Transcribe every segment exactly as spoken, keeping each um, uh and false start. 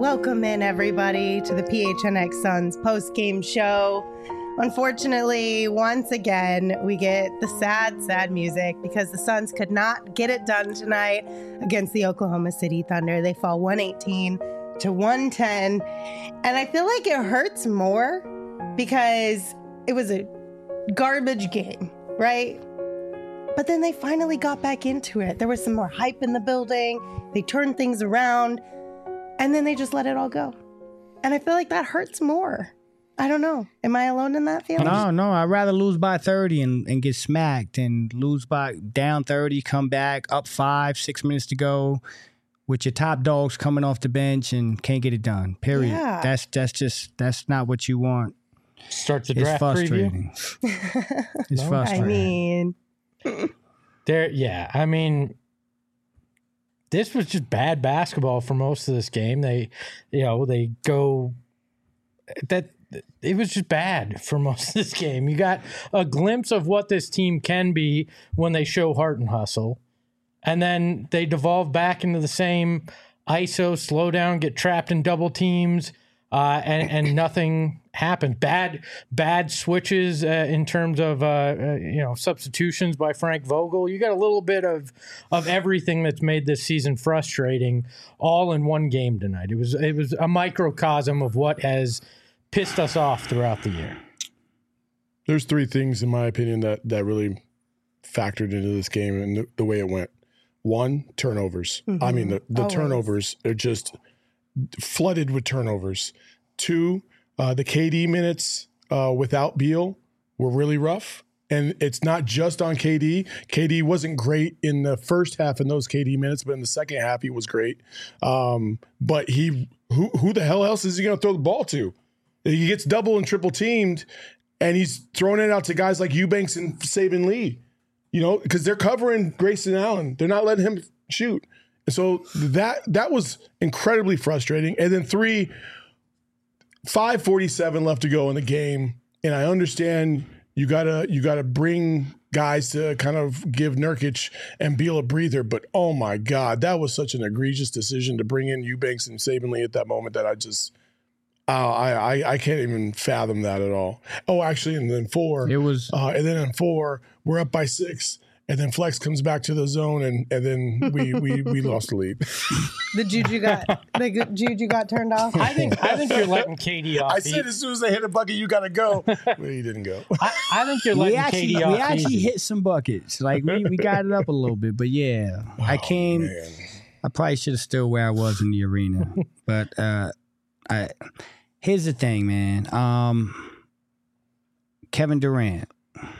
Welcome in, everybody, to the P H N X Suns post-game show. Unfortunately, once again, we get the sad, sad music because the Suns could not get it done tonight against the Oklahoma City Thunder. They fall one eighteen to one ten, and I feel like it hurts more because it was a garbage game, right? But then they finally got back into it. There was some more hype in the building. They turned things around. And then they just let it all go. And I feel like that hurts more. I don't know. Am I alone in that feeling? No, no. I'd rather lose by thirty and, and get smacked and lose by down thirty, come back, up five, six minutes to go with your top dogs coming off the bench and can't get it done. Period. Yeah. That's that's just, that's not what you want. Start the draft preview. It's no, frustrating. I mean. there, yeah. I mean. This was just bad basketball for most of this game. They, you know, they go that it was just bad for most of this game. You got a glimpse of what this team can be when they show heart and hustle. And then they devolve back into the same I S O, slow down, get trapped in double teams, uh, and, and nothing happened. Bad, bad switches uh, in terms of, uh, uh, you know, substitutions by Frank Vogel. You got a little bit of of everything that's made this season frustrating all in one game tonight. It was it was a microcosm of what has pissed us off throughout the year. There's three things, in my opinion, that, that really factored into this game and the, the way it went. One, turnovers. Mm-hmm. I mean, the, the turnovers are just flooded with turnovers. Two, uh, the K D minutes uh, without Beal were really rough. And it's not just on K D. K D wasn't great in the first half in those K D minutes, but in the second half he was great. Um, but he, who, who the hell else is he going to throw the ball to? He gets double and triple teamed, and he's throwing it out to guys like Eubanks and Saban Lee, you know, because they're covering Grayson Allen. They're not letting him shoot. And so that that was incredibly frustrating. And then three, five forty-seven left to go in the game, and I understand you gotta you gotta bring guys to kind of give Nurkic and Beal a breather, but oh my God, that was such an egregious decision to bring in Eubanks and Saban Lee at that moment that I just uh, I, I I can't even fathom that at all. Oh, actually, and then four, it was, uh, and then in four, we're up by six. And then Flex comes back to the zone, and, and then we, we, we lost the lead. The juju got the juju got turned off. I think I think you're letting K D off. I said as soon as they hit a bucket, you got to go. But he didn't go. I, I think you're letting we actually, K D off. We actually easy. hit some buckets. Like we, we got it up a little bit, but yeah, oh, I came. Man. I probably should have stood where I was in the arena, but uh, I. Here's the thing, man. Um, Kevin Durant.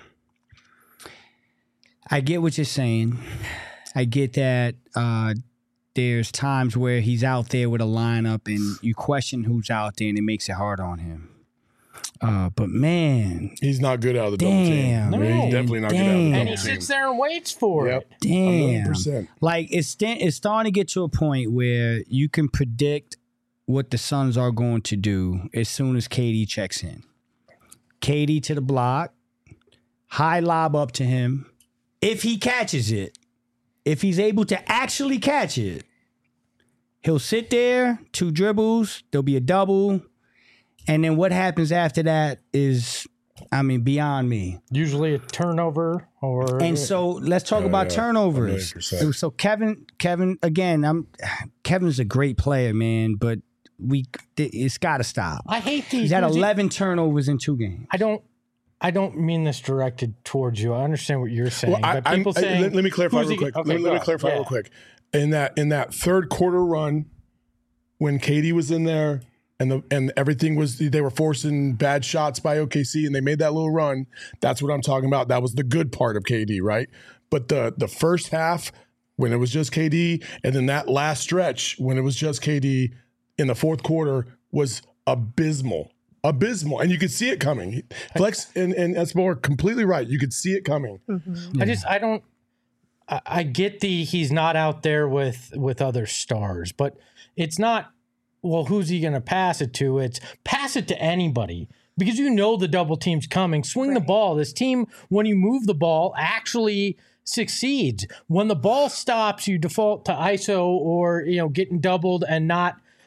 I get what you're saying. I get that uh, there's times where he's out there with a lineup and you question who's out there and it makes it hard on him. Uh, but, man. He's not good out of the double team. No, he's definitely not damn. good out of the double And he team. sits there and waits for yep. it. Damn. one hundred percent. Like, it's, st- it's starting to get to a point where you can predict what the Suns are going to do as soon as K D checks in. K D to the block, high lob up to him. If he catches it, if he's able to actually catch it, he'll sit there, two dribbles, there'll be a double, and then what happens after that is, I mean, beyond me. Usually a turnover or... And so let's talk Oh, about yeah. turnovers. So Kevin, Kevin, again, I'm Kevin's a great player, man, but we it's got to stop. I hate these. He's had eleven turnovers in two games. I don't... I don't mean this directed towards you. I understand what you're saying. Well, I, but people I, saying, let, let me clarify real he, quick. Okay, let, let me clarify yeah. real quick. In that in that third quarter run, when K D was in there and the and everything was they were forcing bad shots by O K C and they made that little run. That's what I'm talking about. That was the good part of K D, right? But the the first half when it was just K D, and then that last stretch when it was just K D in the fourth quarter was abysmal. Abysmal, and you could see it coming. Flex and, and Espo are completely right. You could see it coming. Mm-hmm. I just, I don't, I, I get the he's not out there with with other stars, but it's not. Well, who's he going to pass it to? It's pass it to anybody because you know the double team's coming. Swing right. the ball. This team, when you move the ball, actually succeeds. When the ball stops, you default to I S O or you know getting doubled and not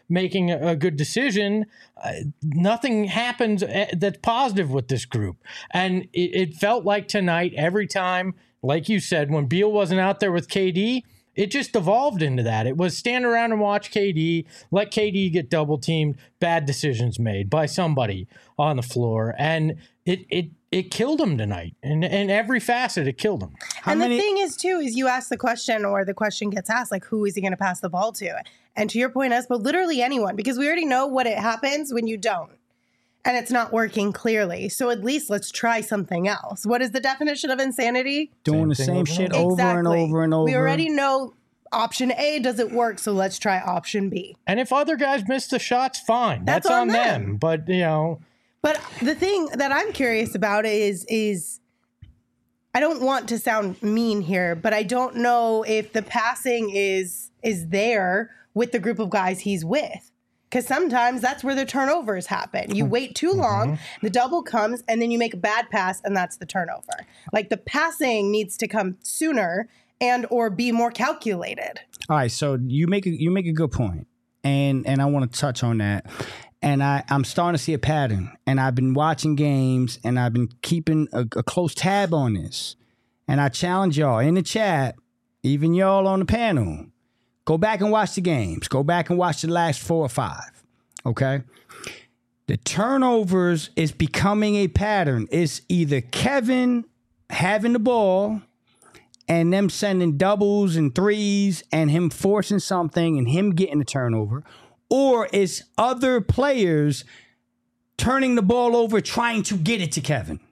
making a, a good decision. Uh, nothing happens that's positive with this group. And it, it felt like tonight, every time, like you said, when Beal wasn't out there with K D, it just evolved into that. It was stand around and watch K D, let K D get double teamed, bad decisions made by somebody on the floor. And it it it killed him tonight. And in every facet, it killed him. How and many- the thing is, too, is you ask the question or the question gets asked, like, who is he going to pass the ball to? And to your point, Espo, literally anyone, because we already know what it happens when you don't. And it's not working clearly. So at least let's try something else. What is the definition of insanity? Doing Same the same shit over exactly. and over and over. We already know option A doesn't work, so let's try option B. And if other guys miss the shots, fine. That's, That's on, on them. them. But, you know. But the thing that I'm curious about is, is I don't want to sound mean here, but I don't know if the passing is is there with the group of guys he's with. Because sometimes that's where the turnovers happen. You wait too long, mm-hmm. the double comes, and then you make a bad pass, and that's the turnover. Like, the passing needs to come sooner and or be more calculated. All right, so you make a, you make a good point, and and I want to touch on that. And I, I'm starting to see a pattern, and I've been watching games, and I've been keeping a, a close tab on this. And I challenge y'all in the chat, even y'all on the panel, go back and watch the games. Go back and watch the last four or five, okay? The turnovers is becoming a pattern. It's either Kevin having the ball and them sending doubles and threes and him forcing something and him getting the turnover, or it's other players turning the ball over trying to get it to Kevin.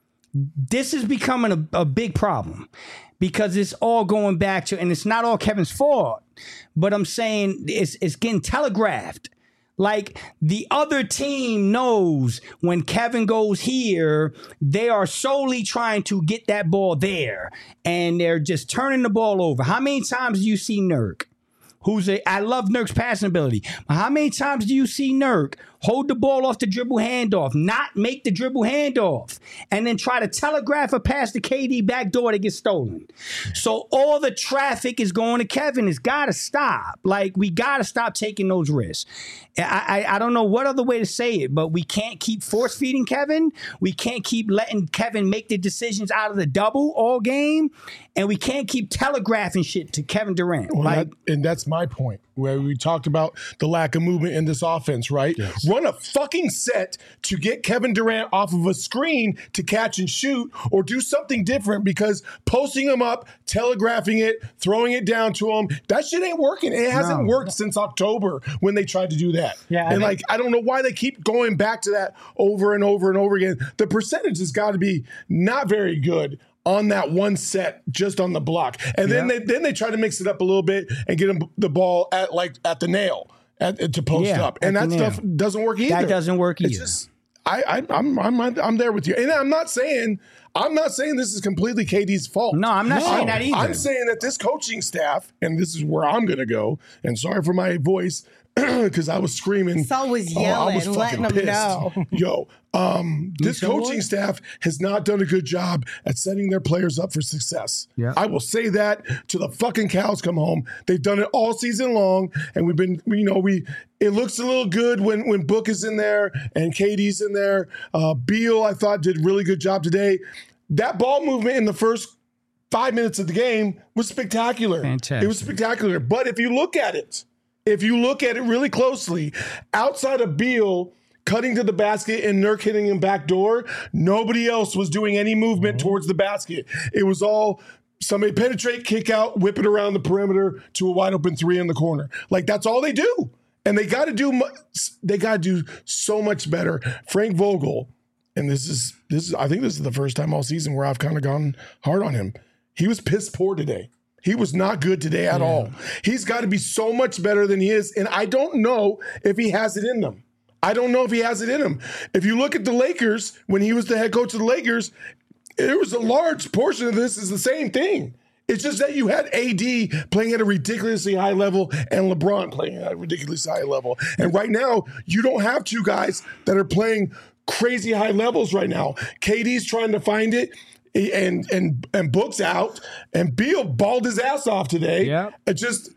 This is becoming a, a big problem because it's all going back to, and it's not all Kevin's fault, but I'm saying it's it's getting telegraphed. Like, the other team knows when Kevin goes here, they are solely trying to get that ball there, and they're just turning the ball over. How many times do you see Nurk? Who's a, I love Nurk's passing ability. How many times do you see Nurk hold the ball off the dribble handoff, not make the dribble handoff, and then try to telegraph a pass to K D backdoor that gets stolen? So all the traffic is going to Kevin. It's got to stop. Like, we got to stop taking those risks. I, I I don't know what other way to say it, but we can't keep force feeding Kevin. We can't keep letting Kevin make the decisions out of the double all game, and we can't keep telegraphing shit to Kevin Durant. Well, like, that, and that's my point, where we talked about the lack of movement in this offense, right? Yes. Run a fucking set to get Kevin Durant off of a screen to catch and shoot, or do something different, because posting him up, telegraphing it, throwing it down to him, that shit ain't working. It hasn't no. worked since October when they tried to do that. Yeah, and I mean, like, I don't know why they keep going back to that over and over and over again. The percentage has got to be not very good on that one set, just on the block. And then yeah. they then they try to mix it up a little bit and get him the ball at like at the nail at, to post yeah, up. And that stuff doesn't work either. That doesn't work either. It's just, I, I I'm I'm I'm there with you. And I'm not saying I'm not saying this is completely K D's fault. No, I'm not no, saying that either. I'm saying that this coaching staff, and this is where I'm going to go, and sorry for my voice, because I was screaming. Saul was yelling, oh, I was letting him know. Yo, um, this coaching staff has not done a good job at setting their players up for success. Yeah. I will say that to the fucking cows come home. They've done it all season long, and we've been, you know, we. It looks a little good when when Book is in there and K D's in there. Uh, Beal, I thought, did a really good job today. That ball movement in the first five minutes of the game was spectacular. Fantastic. It was spectacular. But if you look at it, if you look at it really closely, outside of Beal cutting to the basket and Nurk hitting him backdoor, nobody else was doing any movement mm-hmm. towards the basket. It was all somebody penetrate, kick out, whip it around the perimeter to a wide open three in the corner. Like, that's all they do. And they got to do they got to do so much better. Frank Vogel, and this is this is I think this is the first time all season where I've kind of gone hard on him. He was piss poor today. He was not good today at yeah. all. He's got to be so much better than he is, and I don't know if he has it in them. I don't know if he has it in him. If you look at the Lakers, when he was the head coach of the Lakers, there was a large portion of this is the same thing. It's just that you had A D playing at a ridiculously high level and LeBron playing at a ridiculously high level. And right now, you don't have two guys that are playing crazy high levels right now. K D's trying to find it, and and and Book's out, and Beal balled his ass off today. Yeah. It just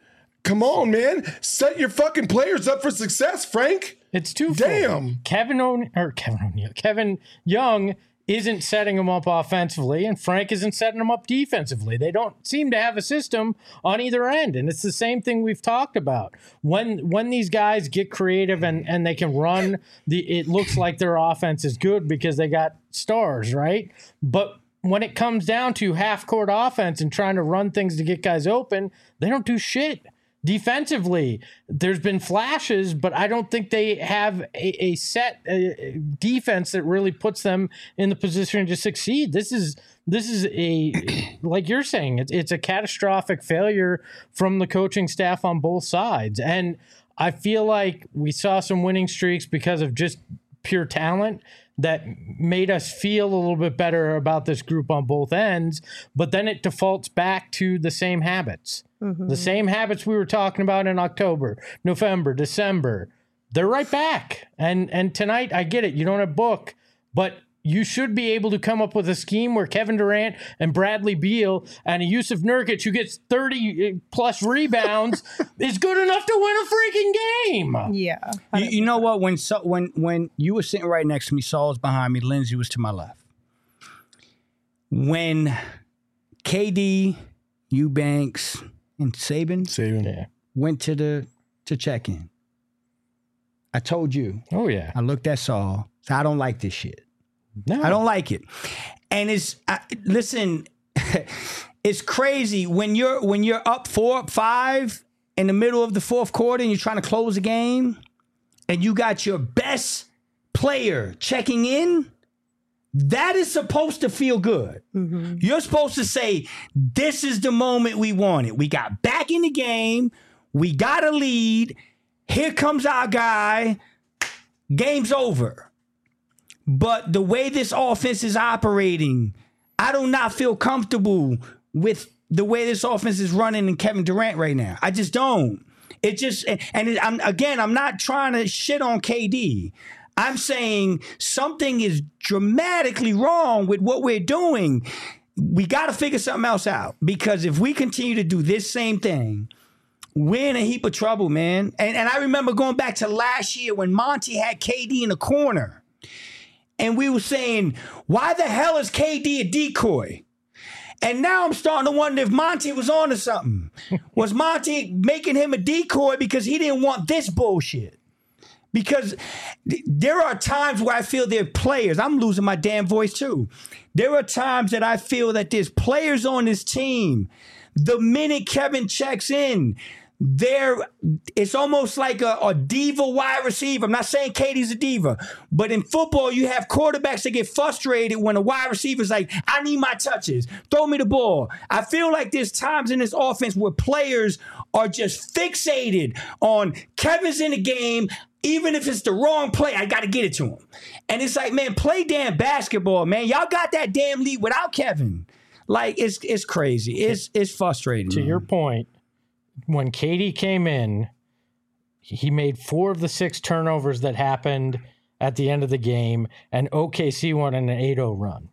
Come on, man. Set your fucking players up for success, Frank. It's too Damn. Kevin O'Neill or Kevin O'Neill. Kevin Young isn't setting them up offensively, and Frank isn't setting them up defensively. They don't seem to have a system on either end, and it's the same thing we've talked about. When when these guys get creative and, and they can run, the it looks like their offense is good because they got stars, right? But when it comes down to half-court offense and trying to run things to get guys open, they don't do shit. Defensively, there's been flashes, but I don't think they have a, a set uh, defense that really puts them in the position to succeed. This is this is a, like you're saying, it's, it's a catastrophic failure from the coaching staff on both sides. And I feel like we saw some winning streaks because of just pure talent that made us feel a little bit better about this group on both ends, but then it defaults back to the same habits. Mm-hmm. The same habits we were talking about in October, November, December. They're right back. And and tonight, I get it. You don't have Book, but you should be able to come up with a scheme where Kevin Durant and Bradley Beal and a Yusuf Nurkic, who gets thirty plus rebounds, is good enough to win a freaking game. Yeah. You, you know what? When so, when when you were sitting right next to me, Saul was behind me, Lindsay was to my left. When K D, Eubanks, and Saban, Saban. Yeah. went to the to check in, I told you. Oh, yeah. I looked at Saul. So I don't like this shit. No. I don't like it. And it's I, listen, it's crazy when you're when you're up four, five in the middle of the fourth quarter and you're trying to close a game and you got your best player checking in. That is supposed to feel good. Mm-hmm. You're supposed to say, this is the moment we wanted. We got back in the game. We got a lead. Here comes our guy. Game's over. But the way this offense is operating, I do not feel comfortable with the way this offense is running in Kevin Durant right now. I just don't. It just, and it, I'm, again, I'm not trying to shit on K D. I'm saying something is dramatically wrong with what we're doing. We got to figure something else out, because if we continue to do this same thing, we're in a heap of trouble, man. And, and I remember going back to last year when Monty had K D in the corner. And we were saying, why the hell is K D a decoy? And now I'm starting to wonder if Monty was on to something. Was Monty making him a decoy because he didn't want this bullshit? Because th- there are times where I feel there are players. I'm losing my damn voice too. There are times that I feel that there's players on this team. The minute Kevin checks in, there, it's almost like a, a diva wide receiver. I'm not saying Katie's a diva, but in football, you have quarterbacks that get frustrated when a wide receiver's like, I need my touches. Throw me the ball. I feel like there's times in this offense where players are just fixated on Kevin's in the game. Even if it's the wrong play, I got to get it to him. And it's like, man, play damn basketball, man. Y'all got that damn lead without Kevin. Like, it's it's crazy. It's, it's frustrating. To man. your point, when K D came in, he made four of the six turnovers that happened at the end of the game, and O K C won an eight oh run.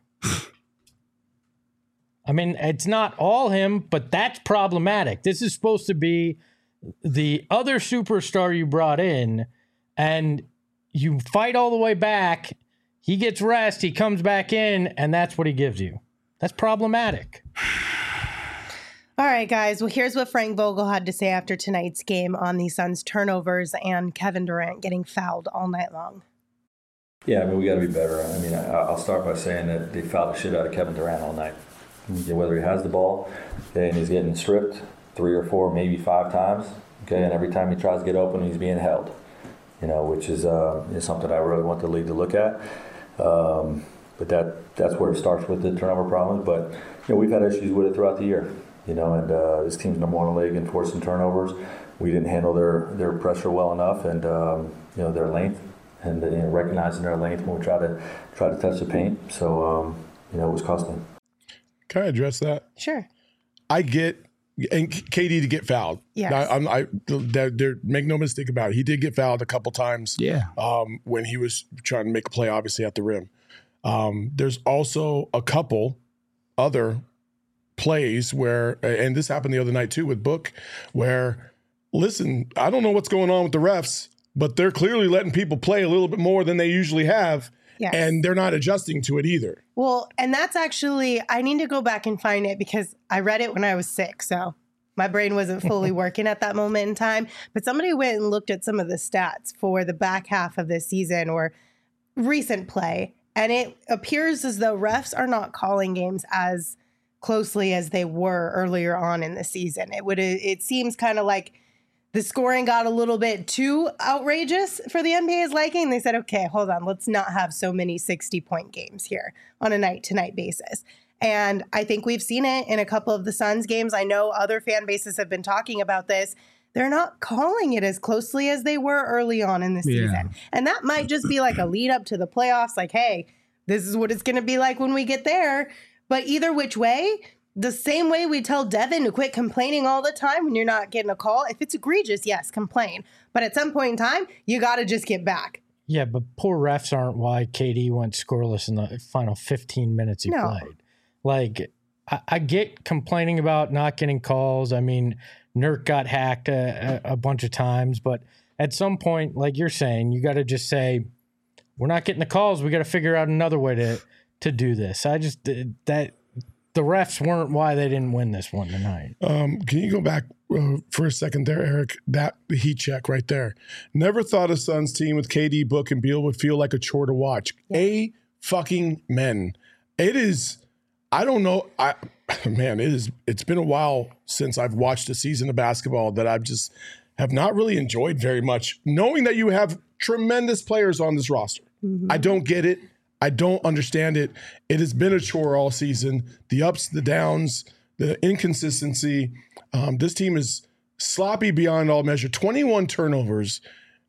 I mean, it's not all him, but that's problematic. This is supposed to be the other superstar you brought in, and you fight all the way back. He gets rest, he comes back in, and that's what he gives you. That's problematic. All right, guys. Well, here's what Frank Vogel had to say after tonight's game on the Suns' turnovers and Kevin Durant getting fouled all night long. Yeah, I mean, we got to be better. I mean, I'll start by saying that they fouled the shit out of Kevin Durant all night. Whether he has the ball and he's getting stripped three or four, maybe five times, okay, and every time he tries to get open, he's being held, you know, which is, uh, is something I really want the league to look at. Um, but that that's where it starts with the turnover problems. But, you know, we've had issues with it throughout the year. You know, and uh, this team's number one in the league in forcing turnovers. We didn't handle their, their pressure well enough, and um, you know, their length, and you know, recognizing their length when we try to try to touch the paint. So um, you know, it was costly. Can I address that? Sure. I get and K D to get fouled. Yes. I, I'm, I they're, they're, make no mistake about it. He did get fouled a couple times. Yeah. Um, when he was trying to make a play, obviously at the rim. Um, there's also a couple other plays where, and this happened the other night too with Book, where listen, I don't know what's going on with the refs, but they're clearly letting people play a little bit more than they usually have. Yes. And they're not adjusting to it either. Well, and that's actually, I need to go back and find it because I read it when I was sick. So my brain wasn't fully working at that moment in time. But somebody went and looked at some of the stats for the back half of this season or recent play. And it appears as though refs are not calling games as closely as they were earlier on in the season. It would, it seems kind of like the scoring got a little bit too outrageous for the N B A's liking. They said, okay, hold on, let's not have so many sixty-point games here on a night-to-night basis. And I think we've seen it in a couple of the Suns games. I know other fan bases have been talking about this. They're not calling it as closely as they were early on in the season. Yeah. And that might just be like a lead up to the playoffs, like, hey, this is what it's going to be like when we get there. But either which way, the same way we tell Devin to quit complaining all the time when you're not getting a call. If it's egregious, yes, complain. But at some point in time, you got to just get back. Yeah, but poor refs aren't why K D went scoreless in the final fifteen minutes he no. played. Like, I, I get complaining about not getting calls. I mean, Nurk got hacked a, a, a bunch of times. But at some point, like you're saying, you got to just say, we're not getting the calls. We got to figure out another way to, to do this. I just, that... The refs weren't why they didn't win this one tonight. Um, can you go back uh, for a second there, Eric? That heat check right there. Never thought a Suns team with K D, Book, and Beal would feel like a chore to watch. Yeah. A fucking men. It is, I don't know. I man, it is. It's been a while since I've watched a season of basketball that I've just have not really enjoyed very much, knowing that you have tremendous players on this roster. Mm-hmm. I don't get it. I don't understand it. It has been a chore all season. The ups, the downs, the inconsistency. Um, this team is sloppy beyond all measure. twenty-one turnovers.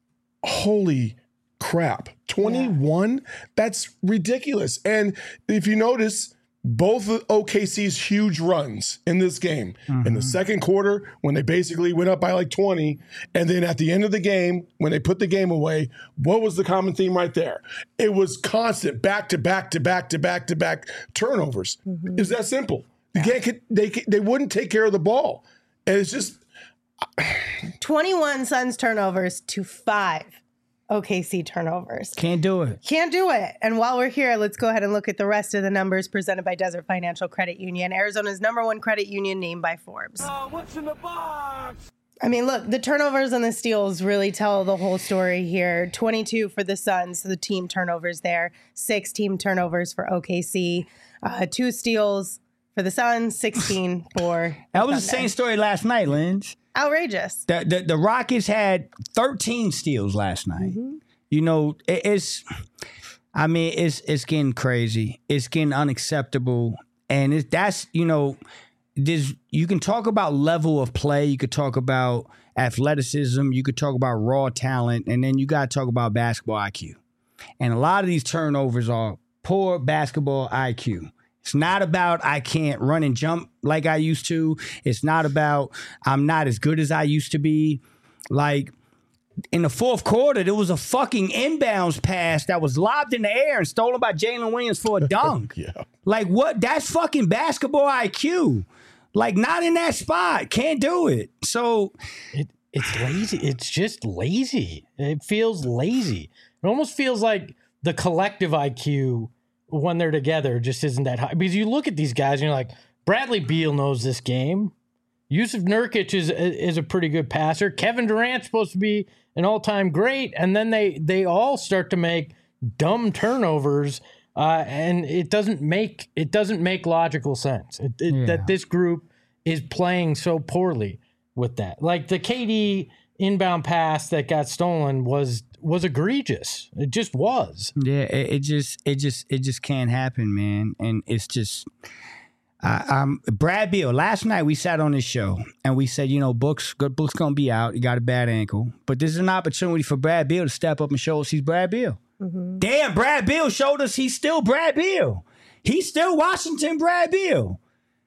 Holy crap. twenty-one? Yeah. That's ridiculous. And if you notice, both of O K C's huge runs in this game, mm-hmm. in the second quarter, when they basically went up by like twenty, and then at the end of the game, when they put the game away, what was the common theme right there? It was constant back to back to back to back to back turnovers. Mm-hmm. It's that simple. Yeah. They, can't, they, they wouldn't take care of the ball. And it's just... twenty-one Suns turnovers to five O K C turnovers. Can't do it. Can't do it. And while we're here, let's go ahead and look at the rest of the numbers presented by Desert Financial Credit Union, Arizona's number one credit union named by Forbes. Uh, what's in the box? I mean, look, the turnovers and the steals really tell the whole story here. twenty-two for the Suns, the team turnovers there. Six team turnovers for O K C. Uh, two steals for the Suns, sixteen for That was Sunday. The same story last night, Linz. Outrageous. The, the the Rockets had thirteen steals last night. Mm-hmm. You know, it, it's, I mean, it's it's getting crazy. It's getting unacceptable. And it, that's, you know, this, you can talk about level of play. You could talk about athleticism. You could talk about raw talent. And then you got to talk about basketball I Q. And a lot of these turnovers are poor basketball I Q. It's not about I can't run and jump like I used to. It's not about I'm not as good as I used to be. Like, in the fourth quarter, there was a fucking inbounds pass that was lobbed in the air and stolen by Jalen Williams for a dunk. Yeah. Like, what? That's fucking basketball I Q. Like, not in that spot. Can't do it. So it, it's lazy. It's just lazy. It feels lazy. It almost feels like the collective I Q when they're together just isn't that high. Because you look at these guys and you're like, Bradley Beal knows this game. Yusuf Nurkic is is a pretty good passer. Kevin Durant's supposed to be an all-time great. And then they they all start to make dumb turnovers, uh, and it doesn't make it doesn't make logical sense it, it, yeah. that this group is playing so poorly with that. Like the K D inbound pass that got stolen was was egregious. It just was. Yeah, it, it just it just it just can't happen, man. And it's just uh, um Brad Beal. Last night we sat on this show and we said, you know, Book's good. Book's gonna be out. He got a bad ankle, but this is an opportunity for Brad Beal to step up and show us he's Brad Beal. Mm-hmm. Damn, Brad Beal showed us he's still Brad Beal. He's still Washington Brad Beal.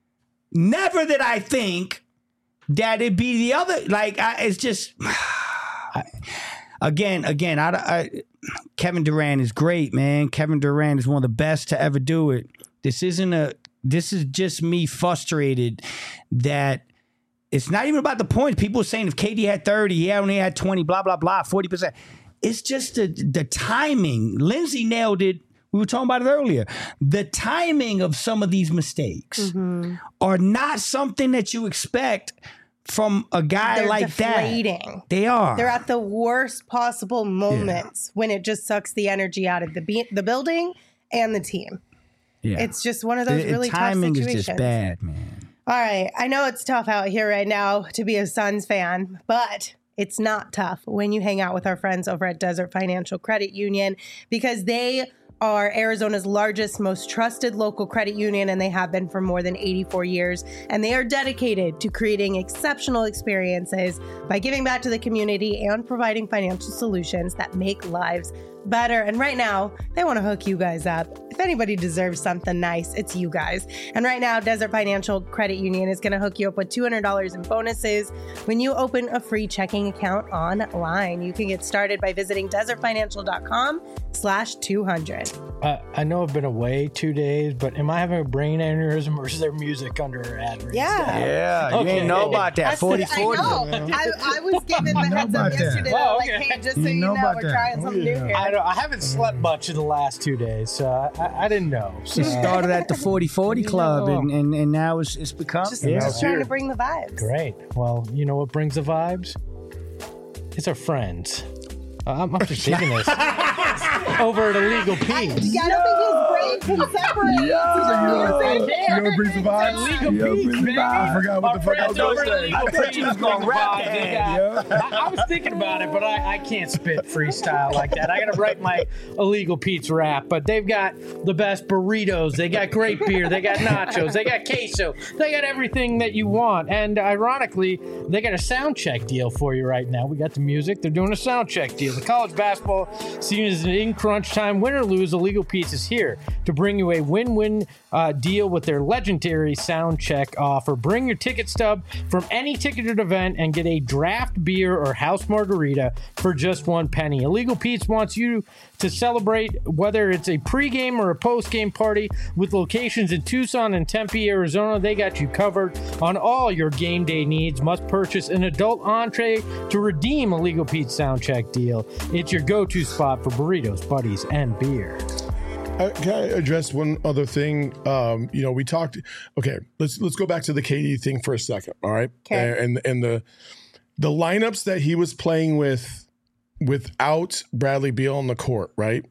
Never did I think that it'd be the other. Like I, it's just. I, Again, again, I, I, Kevin Durant is great, man. Kevin Durant is one of the best to ever do it. This isn't a. This is just me frustrated that It's not even about the points. People are saying if K D had thirty, he only had twenty, blah, blah, blah, forty percent. It's just the, the timing. Lindsay nailed it. We were talking about it earlier. The timing of some of these mistakes mm-hmm. are not something that you expect from a guy They're like deflating. that. They are. They're at the worst possible moments yeah. when it just sucks the energy out of the be- the building and the team. Yeah. It's just one of those the, really the tough timing situations. is just bad, man. All right. I know it's tough out here right now to be a Suns fan, but it's not tough when you hang out with our friends over at Desert Financial Credit Union because they are Arizona's largest, most trusted local credit union, and they have been for more than eighty-four years. And they are dedicated to creating exceptional experiences by giving back to the community and providing financial solutions that make lives better. And right now, they want to hook you guys up. If anybody deserves something nice, it's you guys. And right now, Desert Financial Credit Union is going to hook you up with two hundred dollars in bonuses when you open a free checking account online. You can get started by visiting desertfinancial.com slash 200. Uh, I know I've been away two days, but am I having a brain aneurysm or is there music under her ad? Yeah. Yeah. You Okay. didn't know about that. forty forty. I know. I, I was given the heads up yesterday. That. Oh, Like, okay. hey, just so You you know know, about we're that. trying something Oh, yeah. new here. I, don't, I haven't slept much in the last two days, so I, I, I didn't know. So. It started at the forty forty club, No. and, and, and now it's, it's become. Just, yeah. just trying to bring the vibes. Great. Well, you know what brings the vibes? It's our friends. Uh, I'm, I'm just digging this. Over at Illegal Pete's. I don't think his brain can separate. You know what brings the vibes? Illegal Yo, Pete's, brings the baby. vibes. I forgot what Our the fuck I was friends over going at to say. Illegal I thought Pete's you was bring gonna the rap vibes. They that, got- I, I was thinking about it, but I, I can't spit freestyle like that. I got to write my Illegal Pete's rap. But they've got the best burritos. They got great beer. They got nachos. They got queso. They got everything that you want. And ironically, they got a sound check deal for you right now. We got the music. They're doing a sound check deal. The college basketball season is in crunch time. Win or lose, Illegal Pete's is here to bring you a win-win uh, deal with their legendary sound check offer. Bring your ticket stub from any ticketed event and get a draft beer or house margarita for just one penny. Illegal Pete's wants you to celebrate whether it's a pregame or a postgame party with locations in Tucson and Tempe, Arizona. They got you covered on all your game day needs. Must purchase an adult entree to redeem Illegal Pete's sound check deal. It's your go-to spot for burritos, buddies, and beer. Uh, can I address one other thing? Um, you know, we talked. Okay, let's let's go back to the K D thing for a second. All right, Okay. and and the the lineups that he was playing with without Bradley Beal on the court, right?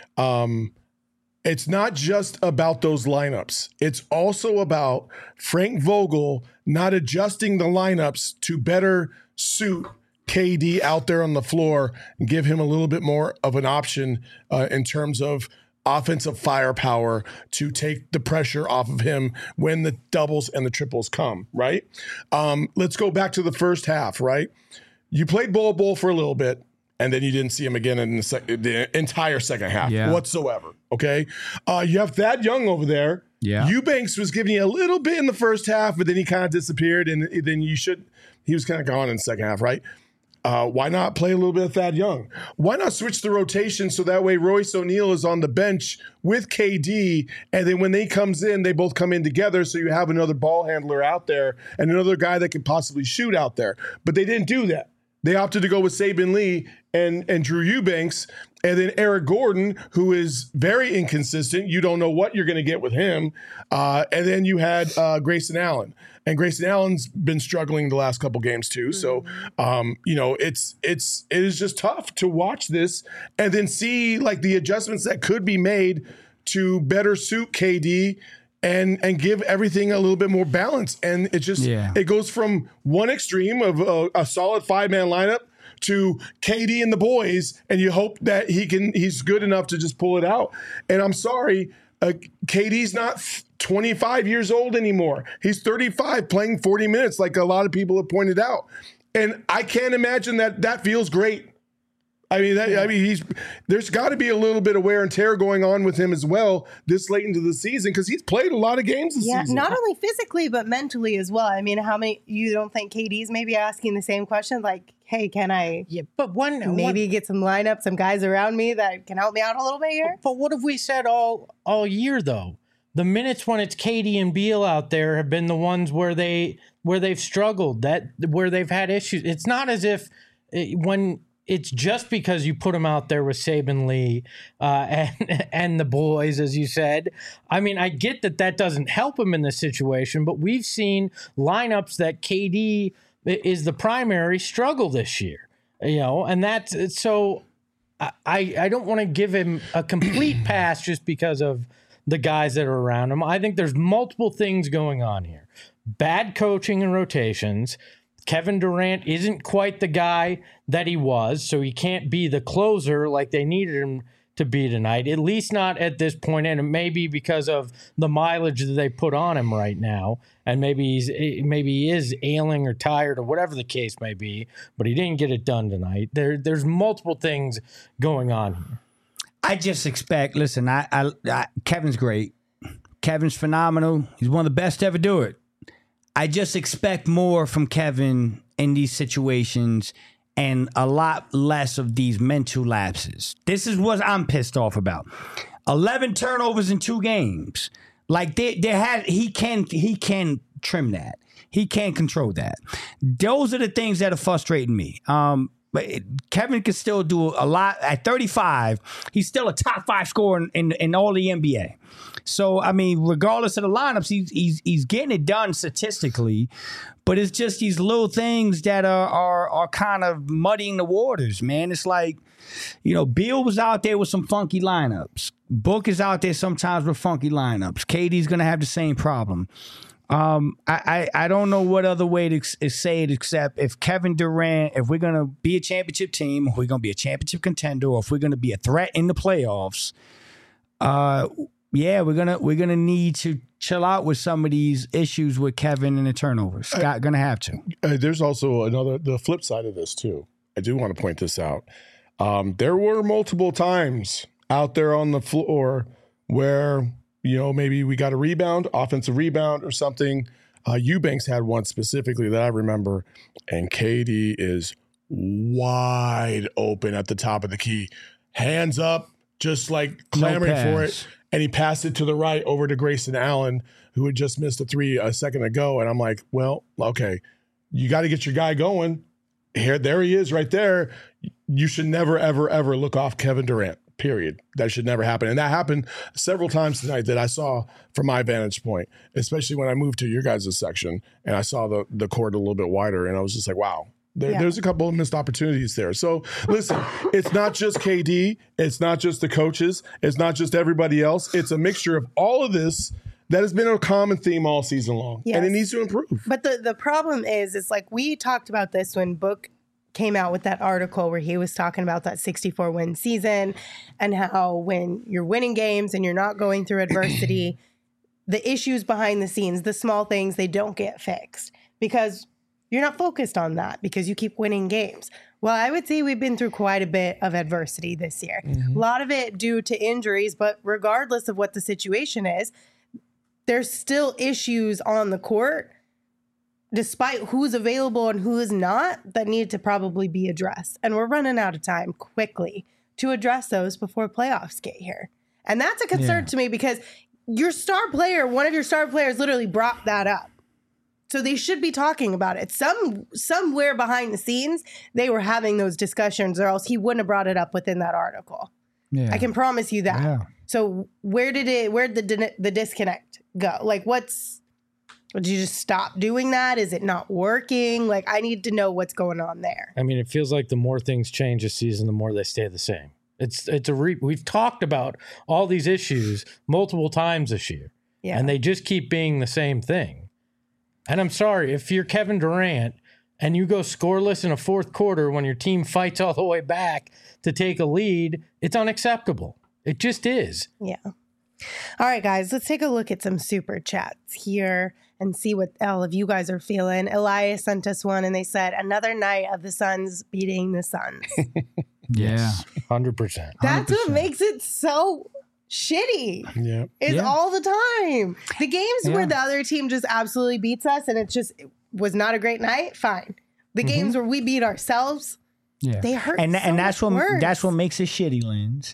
Um, it's not just about those lineups. It's also about Frank Vogel not adjusting the lineups to better suit K D out there on the floor and give him a little bit more of an option uh, in terms of offensive firepower to take the pressure off of him when the doubles and the triples come, right? Um, let's go back to the first half, right? You played Bol Bol for a little bit, and then you didn't see him again in the, sec- the entire second half Yeah. whatsoever, okay? Uh, you have Thad Young over there. Yeah. Eubanks was giving you a little bit in the first half, but then he kind of disappeared, and then you should – he was kind of gone in the second half, right? Uh, why not play a little bit of Thad Young? Why not switch the rotation so that way Royce O'Neal is on the bench with K D, and then when they comes in, they both come in together, so you have another ball handler out there and another guy that can possibly shoot out there. But they didn't do that. They opted to go with Saban Lee and, and Drew Eubanks, and then Eric Gordon, who is very inconsistent. You don't know what you're going to get with him. Uh, and then you had uh, Grayson Allen. And Grayson Allen's been struggling the last couple games too. So, um, you know, it's it's it is just tough to watch this and then see like the adjustments that could be made to better suit K D and and give everything a little bit more balance. And it just Yeah. it goes from one extreme of a, a solid five man lineup to K D and the boys, and you hope that he can he's good enough to just pull it out. And I'm sorry, uh, K D's not twenty-five years old anymore. He's thirty-five playing forty minutes like a lot of people have pointed out. And I can't imagine that that feels great. I mean, that, I mean, he's there's got to be a little bit of wear and tear going on with him as well this late into the season because he's played a lot of games this Yeah, season. not only physically but mentally as well. I mean, how many you don't think K D's maybe asking the same question like, "Hey, can I Yeah, but one maybe get some lineup, some guys around me that can help me out a little bit here?" But what have we said all all year though? the minutes when it's K D and Beal out there have been the ones where they where they've struggled, that where they've had issues. It's not as if it, when it's just because you put them out there with Saban Lee uh, and and the boys, as you said. I mean, I get that that doesn't help him in this situation, but we've seen lineups that K D is the primary struggle this year, you know, and that's so. I I don't want to give him a complete pass just because of the guys that are around him. I think there's multiple things going on here. Bad coaching and rotations. Kevin Durant isn't quite the guy that he was, so he can't be the closer like they needed him to be tonight, at least not at this point. And it may be because of the mileage that they put on him right now. And maybe he's maybe he is ailing or tired or whatever the case may be, but he didn't get it done tonight. There, there's multiple things going on here. I just expect, listen, I, I, I Kevin's great. Kevin's phenomenal. He's one of the best to ever do it. I just expect more from Kevin in these situations and a lot less of these mental lapses. This is what I'm pissed off about. eleven turnovers in two games. Like they, they had, he can, he can trim that. He can control that. Those are the things that are frustrating me. Um, But Kevin can still do a lot. At thirty-five, he's still a top five scorer in, in, in all the N B A. So, I mean, regardless of the lineups, he's, he's, he's getting it done statistically. But it's just these little things that are, are, are kind of muddying the waters, man. It's like, you know, Beal was out there with some funky lineups. Book is out there sometimes with funky lineups. K D's going to have the same problem. Um, I, I, I don't know what other way to, to say it except if Kevin Durant, if we're going to be a championship team, if we're going to be a championship contender, or if we're going to be a threat in the playoffs, uh, yeah, we're gonna we're gonna need to chill out with some of these issues with Kevin and the turnovers. Scott gonna have to. Uh, there's also another the flip side of this too. I do want to point this out. Um, there were multiple times out there on the floor where, you know, maybe we got a rebound, offensive rebound or something. Uh, Eubanks had one specifically that I remember, and K D is wide open at the top of the key. Hands up, just like clamoring No for it. And he passed it to the right over to Grayson Allen, who had just missed a three a second ago. And I'm like, well, okay, you got to get your guy going. Here, there he is right there. You should never, ever, ever look off Kevin Durant. Period. That should never happen. And that happened several times tonight that I saw from my vantage point, especially when I moved to your guys' section and I saw the, the court a little bit wider. And I was just like, wow, there, yeah. there's a couple of missed opportunities there. So listen, it's not just K D. It's not just the coaches. It's not just everybody else. It's a mixture of all of this that has been a common theme all season long. Yes. And it needs to improve. But the, the problem is, it's like we talked about this when Book came out with that article where he was talking about that sixty-four win season and how when you're winning games and you're not going through adversity, the issues behind the scenes, the small things, they don't get fixed because you're not focused on that because you keep winning games. Well, I would say we've been through quite a bit of adversity this year. Mm-hmm. A lot of it due to injuries, but regardless of what the situation is, there's still issues on the court despite who's available and who is not, that need to probably be addressed. And we're running out of time quickly to address those before playoffs get here. And that's a concern yeah. to me because your star player, one of your star players literally brought that up. So they should be talking about it. Some somewhere behind the scenes, they were having those discussions or else he wouldn't have brought it up within that article. Yeah. I can promise you that. Yeah. So where did it, where did the, the disconnect go? Like what's, Did you just stop doing that? Is it not working? Like, I need to know what's going on there. I mean, it feels like the more things change this season, the more they stay the same. It's it's a re- we've talked about all these issues multiple times this year, yeah. and they just keep being the same thing. And I'm sorry, if you're Kevin Durant and you go scoreless in a fourth quarter when your team fights all the way back to take a lead, it's unacceptable. It just is. Yeah. All right, guys, let's take a look at some super chats here and see what all of you guys are feeling. Elias sent us one, and they said, another night of the Suns beating the Suns. Yeah. one hundred percent. That's what makes it so shitty. Yeah. Is yeah. all the time. The games yeah. where the other team just absolutely beats us and it just it was not a great night, fine. The mm-hmm. games where we beat ourselves, yeah. they hurt and, so and that's much what worse. That's what makes it shitty, Lens.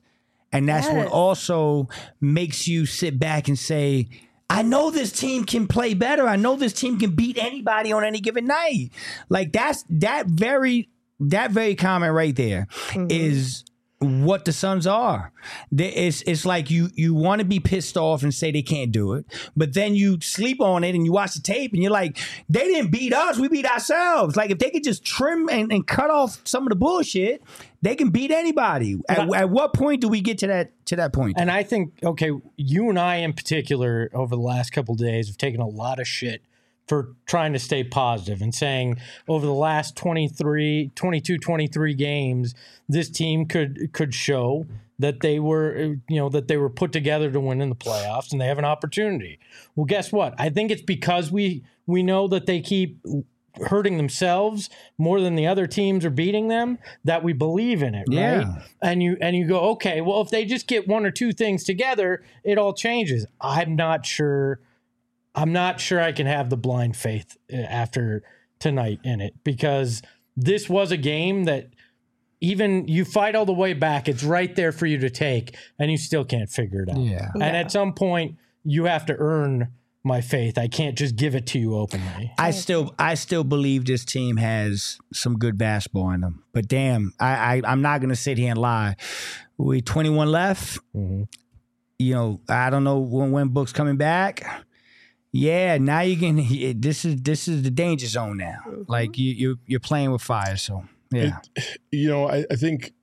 And that's Yes. what also makes you sit back and say, I know this team can play better. I know this team can beat anybody on any given night. Like that's that very that very comment right there Mm-hmm. is what the Suns are. They- It's it's like you you want to be pissed off and say they can't do it, but then you sleep on it and you watch the tape and you're like, they didn't beat us, we beat ourselves. Like if they could just trim and, and cut off some of the bullshit, they can beat anybody. At, at what point do we get to that to that point? And I think, okay, you and I in particular over the last couple of days have taken a lot of shit for trying to stay positive and saying over the last twenty-three, twenty-two, twenty-three games, this team could could show that they were, you know, that they were put together to win in the playoffs and they have an opportunity. Well, guess what? I think it's because we we know that they keep hurting themselves more than the other teams are beating them that we believe in it, right? Yeah. And you and you go, okay, well, if they just get one or two things together, it all changes. I'm not sure. I'm not sure I can have the blind faith after tonight in it because this was a game that even you fight all the way back, it's right there for you to take, and you still can't figure it out. Yeah. And Yeah. at some point, you have to earn my faith. I can't just give it to you openly. I still I still believe this team has some good basketball in them. But damn, I, I I'm not gonna sit here and lie. We twenty-one left. Mhm. You know, I don't know when when Book's coming back. Yeah, now you can. This is this is the danger zone now. Like you you you're playing with fire. So yeah, You know, I, I think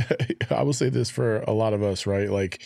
I will say this for a lot of us, right? Like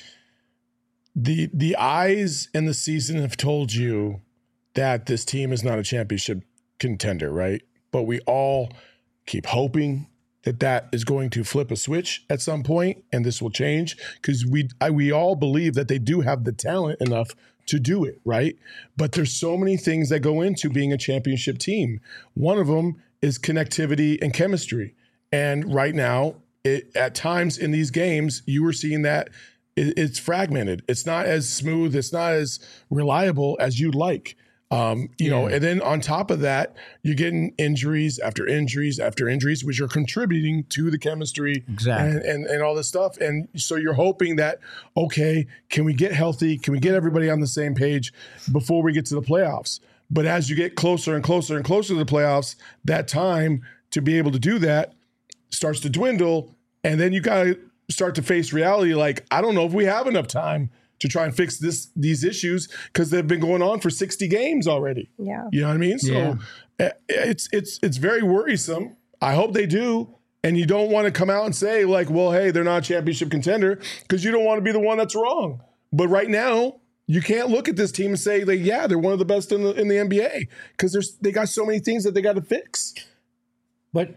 the the eyes in the season have told you that this team is not a championship contender, right? But we all keep hoping that that is going to flip a switch at some point, and this will change because we I, we all believe that they do have the talent enough to do it, right? But there's so many things that go into being a championship team. One of them is connectivity and chemistry. And right now, it, at times in these games, you were seeing that it, it's fragmented. It's not as smooth. It's not as reliable as you'd like. Um, you know, and then on top of that, you're getting injuries after injuries after injuries, which are contributing to the chemistry Exactly. and, and, and all this stuff. And so you're hoping that, okay, can we get healthy? Can we get everybody on the same page before we get to the playoffs? But as you get closer and closer and closer to the playoffs, that time to be able to do that starts to dwindle. And then you got to start to face reality. Like, I don't know if we have enough time to try and fix this these issues because they've been going on for sixty games already. Yeah. You know what I mean? So Yeah. uh, it's it's it's very worrisome. I hope they do. And you don't want to come out and say like, well, hey, they're not a championship contender because you don't want to be the one that's wrong. But right now, you can't look at this team and say like, yeah, they're one of the best in the in the N B A because there's they got so many things that they got to fix. But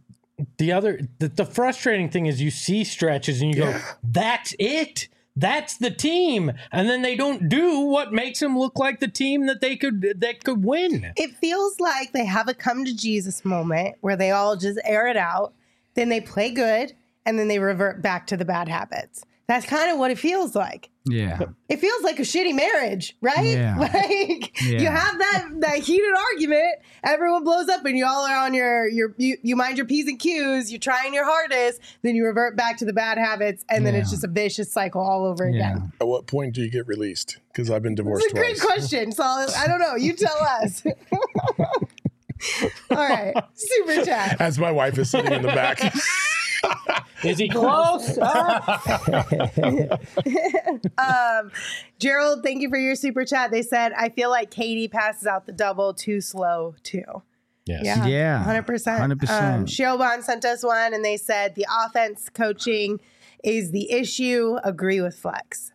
the other, the, the frustrating thing is you see stretches and you go, Yeah. that's it. That's the team. And then they don't do what makes them look like the team that they could that could win. It feels like they have a come to Jesus moment where they all just air it out, then they play good, and then they revert back to the bad habits. That's kind of what it feels like. yeah, It feels like a shitty marriage, right? Yeah. Like Yeah. you have that that heated argument, everyone blows up, and you all are on your your you, you mind your P's and Q's, you're trying your hardest, then you revert back to the bad habits, and then it's Yeah. just a vicious cycle all over yeah. again. At what point do you get released? Because I've been divorced It's a great twice. question. So I don't know. You tell us. All right, super chat. As my wife is sitting in the back. Is he close? Um, Gerald, thank you for your super chat. They said, I feel like Katie passes out the double too slow, too. Yes. Yeah. Yeah. one hundred percent. one hundred percent. Um, Shioban sent us one, and they said, the offense coaching is the issue. Agree with Flex.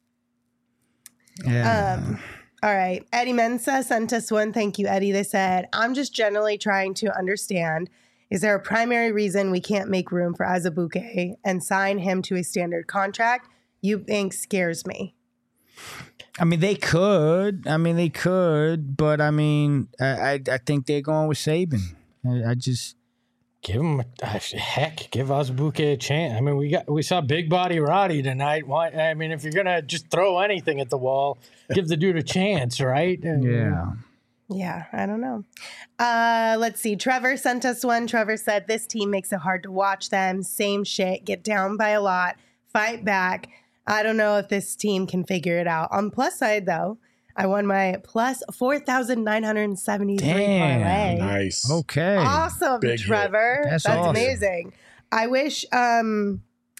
yeah. Um, all right. Eddie Mensa sent us one. Thank you, Eddie. They said, I'm just generally trying to understand, is there a primary reason we can't make room for Azubuike and sign him to a standard contract? You think scares me. I mean, they could. I mean, they could. But I mean, I I, I think they're going with Saban. I, I just. Give him a heck. Give Azubuike a chance. I mean, we got we saw Big Body Roddy tonight. Why? I mean, if you're gonna just throw anything at the wall, give the dude a chance, right? Yeah. Yeah, I don't know. Uh, let's see. Trevor sent us one. Trevor said, this team makes it hard to watch them. Same shit. Get down by a lot. Fight back. I don't know if this team can figure it out. On the plus side, though, I won my plus four thousand nine hundred seventy-three Damn. parlay. Nice. Okay. Awesome, Big Trevor. hit. That's That's awesome. amazing. I wish um,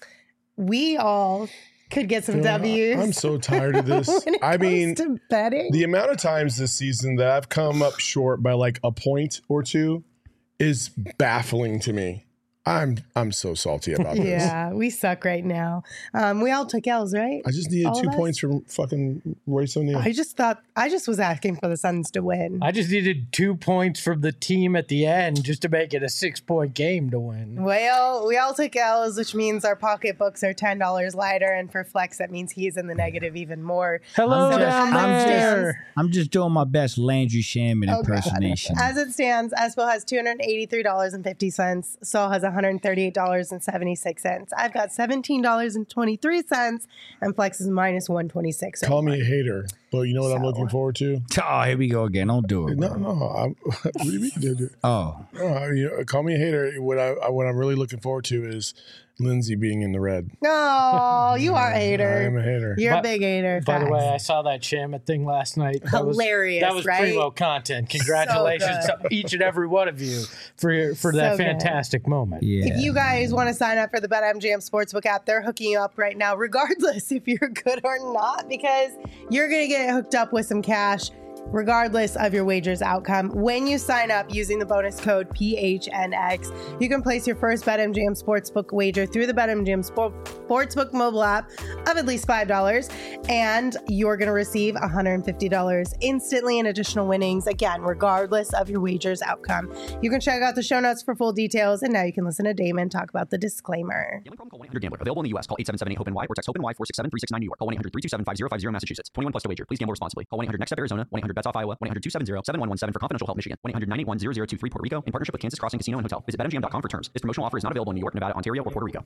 we all could get some You know, W's. I'm so tired of this. when it I comes mean, to betting. the amount of times this season that I've come up short by like a point or two is baffling to me. I'm I'm so salty about this. Yeah, we suck right now. Um, we all took L's, right? I just needed All two of us? points from fucking Royce O'Neal. I just thought I just was asking for the Suns to win. I just needed two points from the team at the end just to make it a six-point game to win. Well, we all took L's, which means our pocketbooks are ten dollars lighter, and for Flex, that means he's in the negative even more. Hello So down as it there. stands- I'm just doing my best Landry Shaman Oh, God. impersonation. As it stands, Espo has two hundred eighty-three dollars and fifty cents. Saul has one hundred thirty-eight dollars and seventy-six cents. I've got seventeen dollars and twenty-three cents, and Flex is minus one twenty-six. Call me a hater, but you know what I'm So- looking forward to? Oh, here we go again. Don't do it. No, Bro. no. I'm, what do you mean? dude? Oh, No, I- you know, call me a hater. What I what I'm really looking forward to is Lindsay being in the red. Oh, you are a I am hater. a hater. You're By- a big hater. By the way, I Facts. saw that Shamit thing last night. That Hilarious, was, That was right? primo content. Congratulations So to each and every one of you for your, for that So good. fantastic moment. yeah. If you guys want to sign up for the BetMGM Sportsbook app, they're hooking you up right now, regardless if you're good or not, because you're going to get hooked up with some cash, regardless of your wager's outcome. When you sign up using the bonus code P H N X, you can place your first BetMGM Sportsbook wager through the BetMGM Sport- Sportsbook mobile app of at least five dollars, and you're going to receive one hundred fifty dollars instantly in additional winnings, again, regardless of your wager's outcome. You can check out the show notes for full details, and now you can listen to Damon talk about the disclaimer. Gambling problem? Call one eight hundred gambler. Available in the U S. Call eight seven seven eight hope N Y or text HOPE-NY four six seven three six nine New York. Call one eight hundred three two seven five zero five zero Massachusetts. twenty-one plus to wager. Please gamble responsibly. Call one eight hundred next step Arizona. one eight hundred bets off Iowa. one eight hundred two seven zero seven one one seven for confidential help Michigan. one eight hundred nine eight one zero zero two three Puerto Rico in partnership with Kansas Crossing Casino and Hotel. Visit bet M G M dot com for terms. This promotional offer is not available in New York, Nevada, Ontario, or Puerto Rico.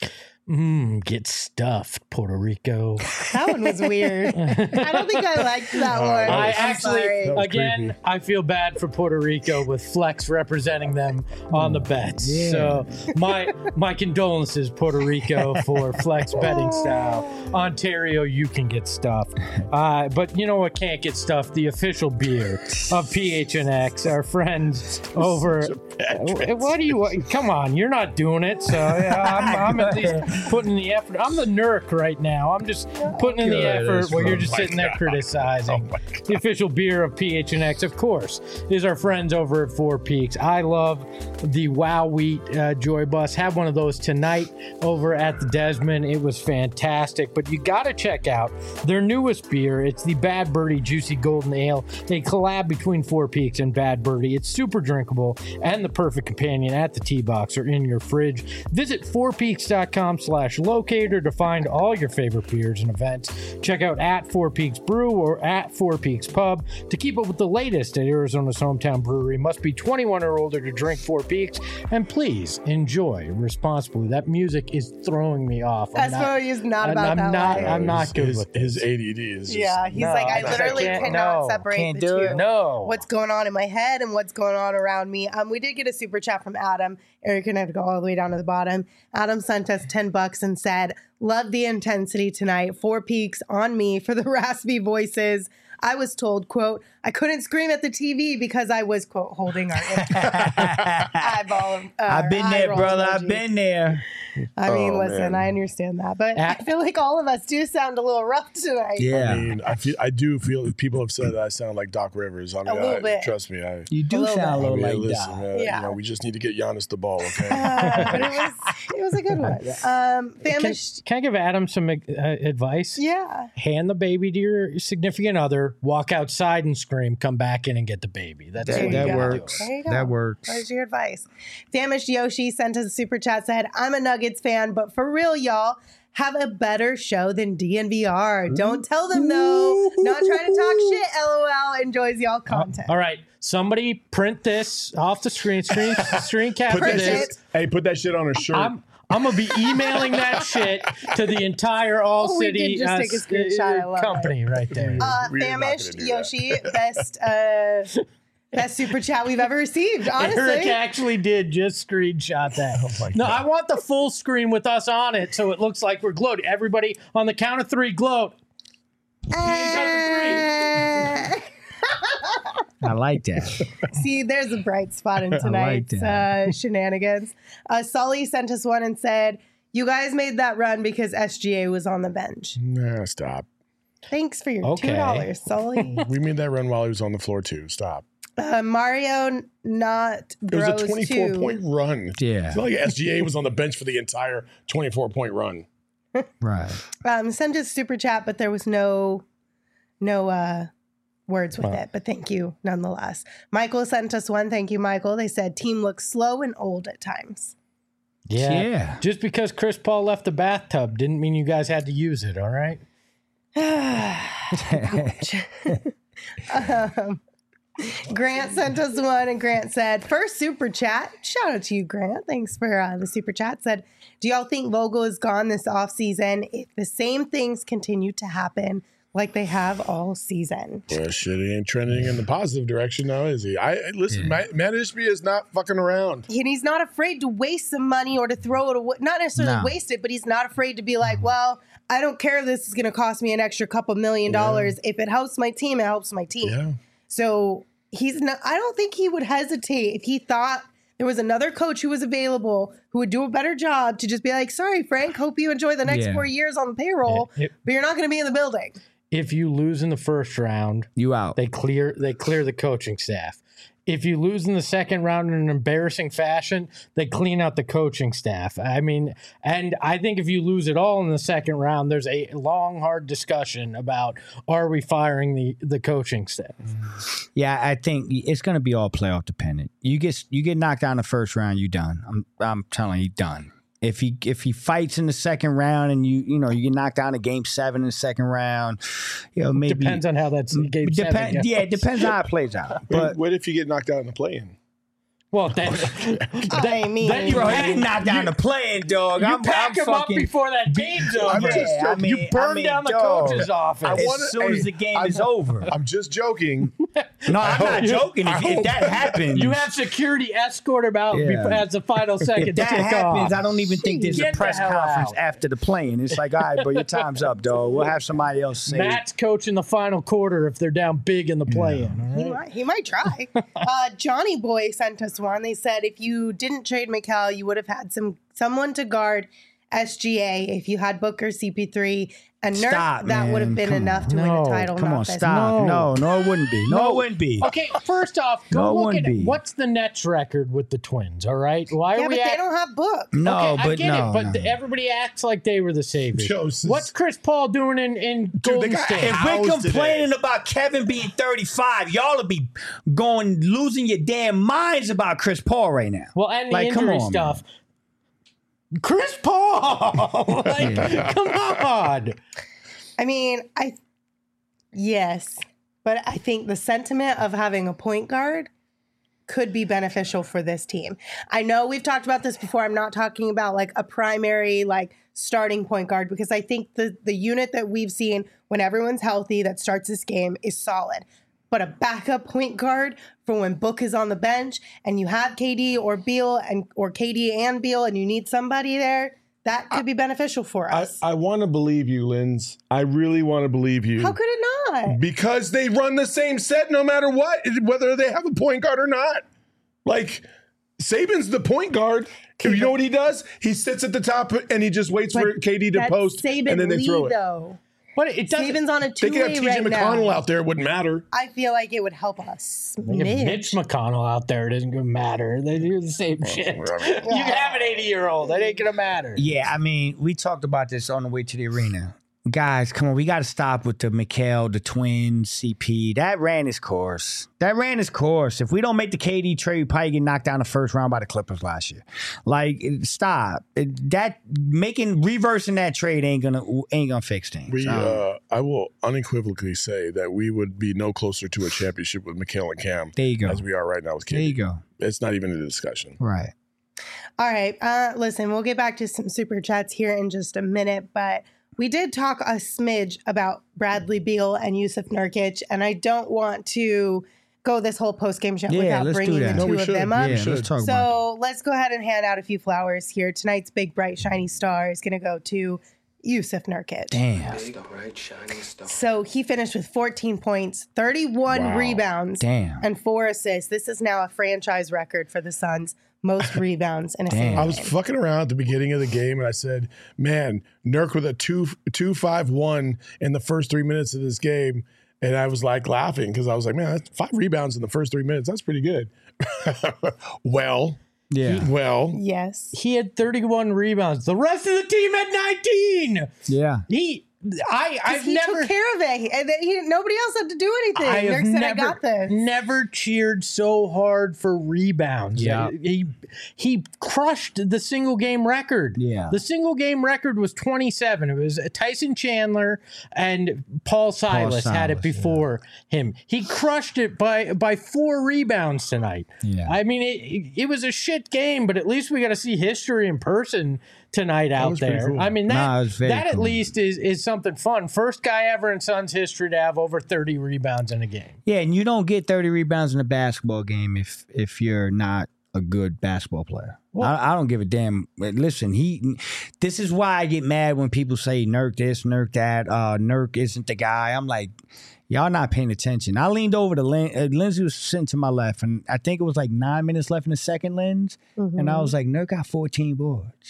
Mmm, get stuffed, Puerto Rico. That one was weird. I don't think I liked that one. I I'm actually, sorry. That was again, creepy. I feel bad for Puerto Rico with Flex representing them on the bets. Yeah. So my my condolences, Puerto Rico, for Flex betting style. Ontario, you can get stuffed. Uh, but you know what can't get stuffed? The official beer of P H N X, our friends over. What do you? Come on, you're not doing it. So yeah, I'm, I'm at least putting the effort. I'm the Nurk right now. I'm just putting in the effort Goodness, where you're oh just my sitting there God. criticizing. The official beer of P H N X, of course, is our friends over at Four Peaks. I love the Wow Wheat uh, Joy Bus. Had one of those tonight over at the Desmond. It was fantastic. But you got to check out their newest beer. It's the Bad Birdie Juicy Golden Ale, a collab between Four Peaks and Bad Birdie. It's super drinkable and the perfect companion at the tea box or in your fridge. Visit four peaks dot com slash locator to find all your favorite beers and events. Check out at Four Peaks Brew or at Four Peaks Pub to keep up with the latest at Arizona's hometown brewery. Must be twenty-one or older to drink Four Peaks, and please enjoy responsibly. That music is throwing me off. I'm That's not- what he's not I'm- about I'm that not- life. I'm not His- good his, with his this. A D D is just, Yeah, he's No, like, I I literally can't- cannot no, separate can't the do two. it. No. What's going on in my head and what's going on around me. Um, we did get a super chat from Adam. Eric and I have to go all the way down to the bottom. Adam sent us ten bucks and said, "Love the intensity tonight. Four Peaks on me for the raspy voices. I was told, quote, I couldn't scream at the T V because I was, quote, holding our eyeball. Uh, I've been eye there, roll brother. emoji. I've been there. I mean, Oh, listen, man. I understand that, but Ah. I feel like all of us do sound a little rough tonight. Yeah. I mean, I feel I do feel people have said that I sound like Doc Rivers. I mean, little I, bit. trust me. I, You do little sound a bit. I little mean, like listen, that. man, Yeah. you know, we just need to get Giannis the ball, okay? Uh, but it was it was a good one. Um, Can, famished. can I give Adam some uh, advice? Yeah. Hand the baby to your significant other, walk outside and scream, come back in and get the baby. That's There what you you that go. gotta do. works. There you go. That works. There's your advice. Famished Yoshi sent us a super chat, said, I'm a Nuggets fan, but for real, y'all, have a better show than D N V R. Don't tell them, though. Not trying to talk shit, LOL. Enjoys y'all content. All right, somebody print this off the screen, screen, screen Put capture that Print this. it. shit, hey, put that shit on a shirt. I'm I'm gonna be emailing that shit to the entire All Oh, we City did just uh, take a s- screenshot. I uh, love company right there. Uh, We're not famished gonna do that. Yoshi, best uh, Best super chat we've ever received, honestly. Eric actually did just screenshot that. Oh no, I want the full screen with us on it so it looks like we're gloating. Everybody on the count of three, gloat. Uh, I like that. See, there's a bright spot in tonight's like uh, shenanigans. Uh, Sully sent us one and said, you guys made that run because S G A was on the bench. Nah, stop. Thanks for your Okay. two dollars, Sully. We made that run while he was on the floor too. Stop. Uh, Mario Not It was Bros a twenty-four two. point run. Yeah. It's not like S G A was on the bench for the entire twenty-four point run. Right. Um, sent us super chat, but there was no no uh, words with it. But thank you nonetheless. Michael sent us one. Thank you, Michael. They said team looks slow and old at times. Yeah. Yeah. Just because Chris Paul left the bathtub didn't mean you guys had to use it, all right? um, Grant sent us one, and Grant said, first super chat. Shout out to you, Grant. Thanks for uh, the super chat. Said, do y'all think Vogel is gone this offseason if the same things continue to happen like they have all season? Well, shit, he ain't trending in the positive direction now, is he? I I- listen. Yeah. Matt, Matt Ishbia is not fucking around. And he's not afraid to waste some money or to throw it away. Not necessarily No. waste it, but he's not afraid to be like, well, I don't care if this is going to cost me an extra couple million dollars. If it helps my team, it helps my team. Yeah. So he's not, I don't think he would hesitate if he thought there was another coach who was available who would do a better job to just be like, sorry, Frank, hope you enjoy the next Yeah. four years on the payroll, Yeah. It- but you're not going to be in the building. If you lose in the first round, You out. they clear they clear the coaching staff. If you lose in the second round in an embarrassing fashion, they clean out the coaching staff. I mean, and I think if you lose it all in the second round, there's a long, hard discussion about are we firing the, the coaching staff? Yeah, I think it's going to be all playoff dependent. You get you get knocked out in the first round, you done. I'm I'm telling you, done. If he if he fights in the second round and you you know you get knocked down in game seven in the second round, you know maybe Depends on how that's game seven Depend, goes. yeah, it depends on how it plays out. But But what if you get knocked out in the play-in? Well, then, I mean, then you bro, pack- he didn't knock down the playing dog. you I'm, pack I'm him up fucking, before that game's over. I'm just Yeah, I joking. mean, you burn I mean, down the dog, coach's office. I As wanna- soon as hey, the game I'm- is over. I'm just joking. No, I'm not hope- joking. I If, if hope- that happens, You have security escort him out Yeah. before, as the final second if that kick happens, off. I don't even think there's Get a the press hell conference out. after the playing. It's like, all right, bro, your time's up, dog. We'll have somebody else say. Matt's coaching the final quarter if they're down big in the play-in. all He right? might, he might try. uh, Johnny Boy sent us one. They said if you didn't trade Mikal, you would have had some someone to guard S G A. If you had Booker, C P three, and Nurk, Stop, that would have man. been Come enough on. to win No, a title. Come not on, this. stop. No. No, no, it wouldn't be. No, No. it wouldn't be. Okay, first off, go No, it look wouldn't at be. what's the Nets record with the Twins, all right? Why Yeah, are but we they act- don't have Book. No, okay, I but get no. it, but no. the- everybody acts like they were the saviors. Joseph. What's Chris Paul doing in, in Golden guy- State? If How's we're today? complaining about Kevin being thirty-five, y'all will be going losing your damn minds about Chris Paul right now. Well, and the Like, come injury on, stuff. Chris Paul! like, come on. I mean, I yes, but I think the sentiment of having a point guard could be beneficial for this team. I know we've talked about this before. I'm not talking about like a primary like starting point guard because I think the the unit that we've seen when everyone's healthy that starts this game is solid. But a backup point guard for when Book is on the bench and you have K D or Beal and or K D and Beal and you need somebody there, that could be beneficial for I, us. I want to believe you, Linz. I really want to believe you. How could it not? Because they run the same set no matter what, whether they have a point guard or not. Like, Saban's the point guard. You know what he does? He sits at the top and he just waits for But K D to that's post, Saban and then they Lee, throw it. Though. But it doesn't. Saban's on a They could have two-way T J right McConnell now. out there. It wouldn't matter. I feel like it would help us. If Mitch McConnell out there, it isn't going to matter. They do the same shit. You can have an eighty-year-old. That ain't going to matter. Yeah, I mean, we talked about this on the way to the arena. Guys, come on, we got to stop with the Mikal, the Twins, C P. That ran its course. That ran its course. If we don't make the K D trade, we probably get knocked down the first round by the Clippers last year. Like, it- stop. It- that making reversing that trade ain't gonna ain't gonna fix things. We, Um, uh, I will unequivocally say that we would be no closer to a championship with Mikal and Cam there you go. as we are right now with K There D. you go. It's not even a discussion. Right. All right. Uh, listen, we'll get back to some super chats here in just a minute, but we did talk a smidge about Bradley Beal and Yusuf Nurkic, and I don't want to go this whole post game show Yeah, without let's do bringing the that. two No, we of should. them up. Yeah, should. let's talk about So let's go ahead and hand out a few flowers here. Tonight's big, bright, shiny star is going to go to Yusuf Nurkic. it. Damn. Big, bright, shining star. So he finished with fourteen points, thirty-one Wow. rebounds, Damn. and four assists. This is now a franchise record for the Suns. Most rebounds in a Damn. single I was game. fucking around at the beginning of the game, and I said, "Man, Nurk with a two two five one in the first three minutes of this game," and I was like laughing because I was like, "Man, that's five rebounds in the first three minutes. That's pretty good." well, Yeah. well, Yes. He had thirty-one rebounds. The rest of the team had nineteen. Yeah. He, I, I've he never. took care of it. And then he, nobody else had to do anything. I have Nurk said, never, I got this. never cheered so hard for rebounds. Yeah. He he crushed the single game record. Yeah. The single game record was twenty-seven. It was Tyson Chandler and Paul Silas, had it Silas, before him. He crushed it by by four rebounds tonight. Yeah. I mean, it, it was a shit game, but at least we got to see history in person tonight out was pretty there. cool. I mean, that, Nah, it was very that at cool. least is, is something fun. First guy ever in Suns history to have over thirty rebounds in a game. Yeah, and you don't get thirty rebounds in a basketball game if if you're not a good basketball player. I, I don't give a damn. Listen, he. This is why I get mad when people say Nurk this, Nurk that. Uh, Nurk isn't the guy. I'm like, y'all not paying attention. I leaned over to Lin- uh, Lindsay was sitting to my left, and I think it was like nine minutes left in the second, Lens, and I was like, Nurk got fourteen boards.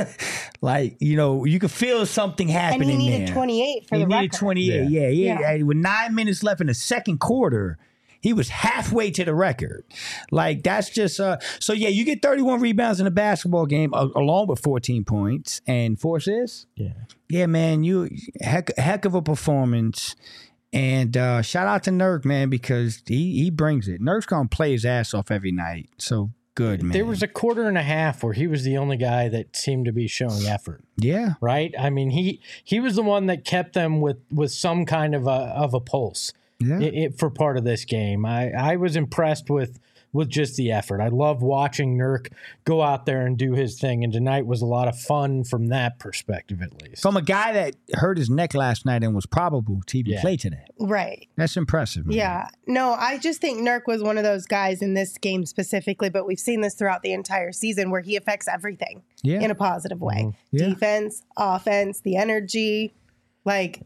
Like, you know, you could feel something And happening he needed there. twenty-eight for He the needed record. twenty-eight. Yeah, yeah. Yeah. yeah. With nine minutes left in the second quarter, he was halfway to the record. Like, that's just uh so yeah, you get thirty-one rebounds in a basketball game uh, along with fourteen points and four assists. Yeah. Yeah, man, you heck heck of a performance. And uh shout out to Nurk, man, because he he brings it. Nurk's gonna play his ass off every night. So good, man. There was a quarter and a half where he was the only guy that seemed to be showing effort, yeah. right? I mean, he he was the one that kept them with with some kind of a of a pulse Yeah. i- i- for part of this game. I I was impressed with with just the effort. I love watching Nurk go out there and do his thing, and tonight was a lot of fun from that perspective, at least. From a guy that hurt his neck last night and was probable to even Yeah. play today. Right. That's impressive, man. Yeah. No, I just think Nurk was one of those guys in this game specifically, but we've seen this throughout the entire season where he affects everything Yeah. in a positive way. Yeah. Defense, offense, the energy. Like,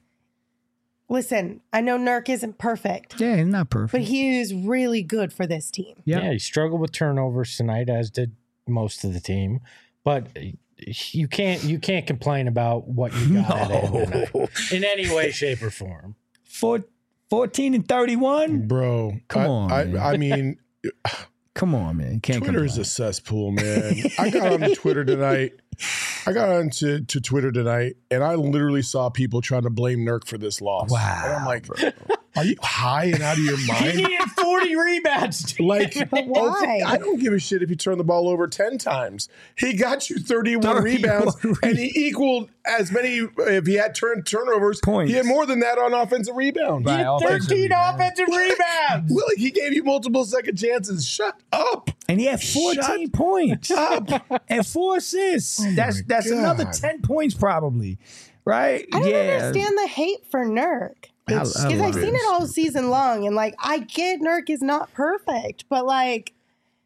listen, I know Nurk isn't perfect, Yeah, he's not perfect. but he is really good for this team. Yeah. Yeah, he struggled with turnovers tonight, as did most of the team. But you can't you can't complain about what you got out of him tonight in any way, shape, or form. Four, fourteen and thirty-one? bro, Come I, on, I, man. I mean, Come on, man. You can't Twitter is complain. a cesspool, man. I got on Twitter tonight. I got onto to Twitter tonight, and I literally saw people trying to blame Nurk for this loss. Wow, And I'm like, are you high and out of your He mind? needed forty rebounds. Like, But why? I don't give a shit if you turn the ball over ten times. He got you thirty-one, rebounds, and he equaled as many. If he had turn turnovers, Points. he had more than that on offensive rebounds. Right. He had offensive thirteen rebound. offensive rebounds. Willie, he gave you multiple second chances. Shut up. And he had fourteen points and four assists. that's that's God. another ten points probably. Right? I don't yeah. understand the hate for Nurk. I- I Because love I've seen it. it all season long, and like I get Nurk is not perfect, but like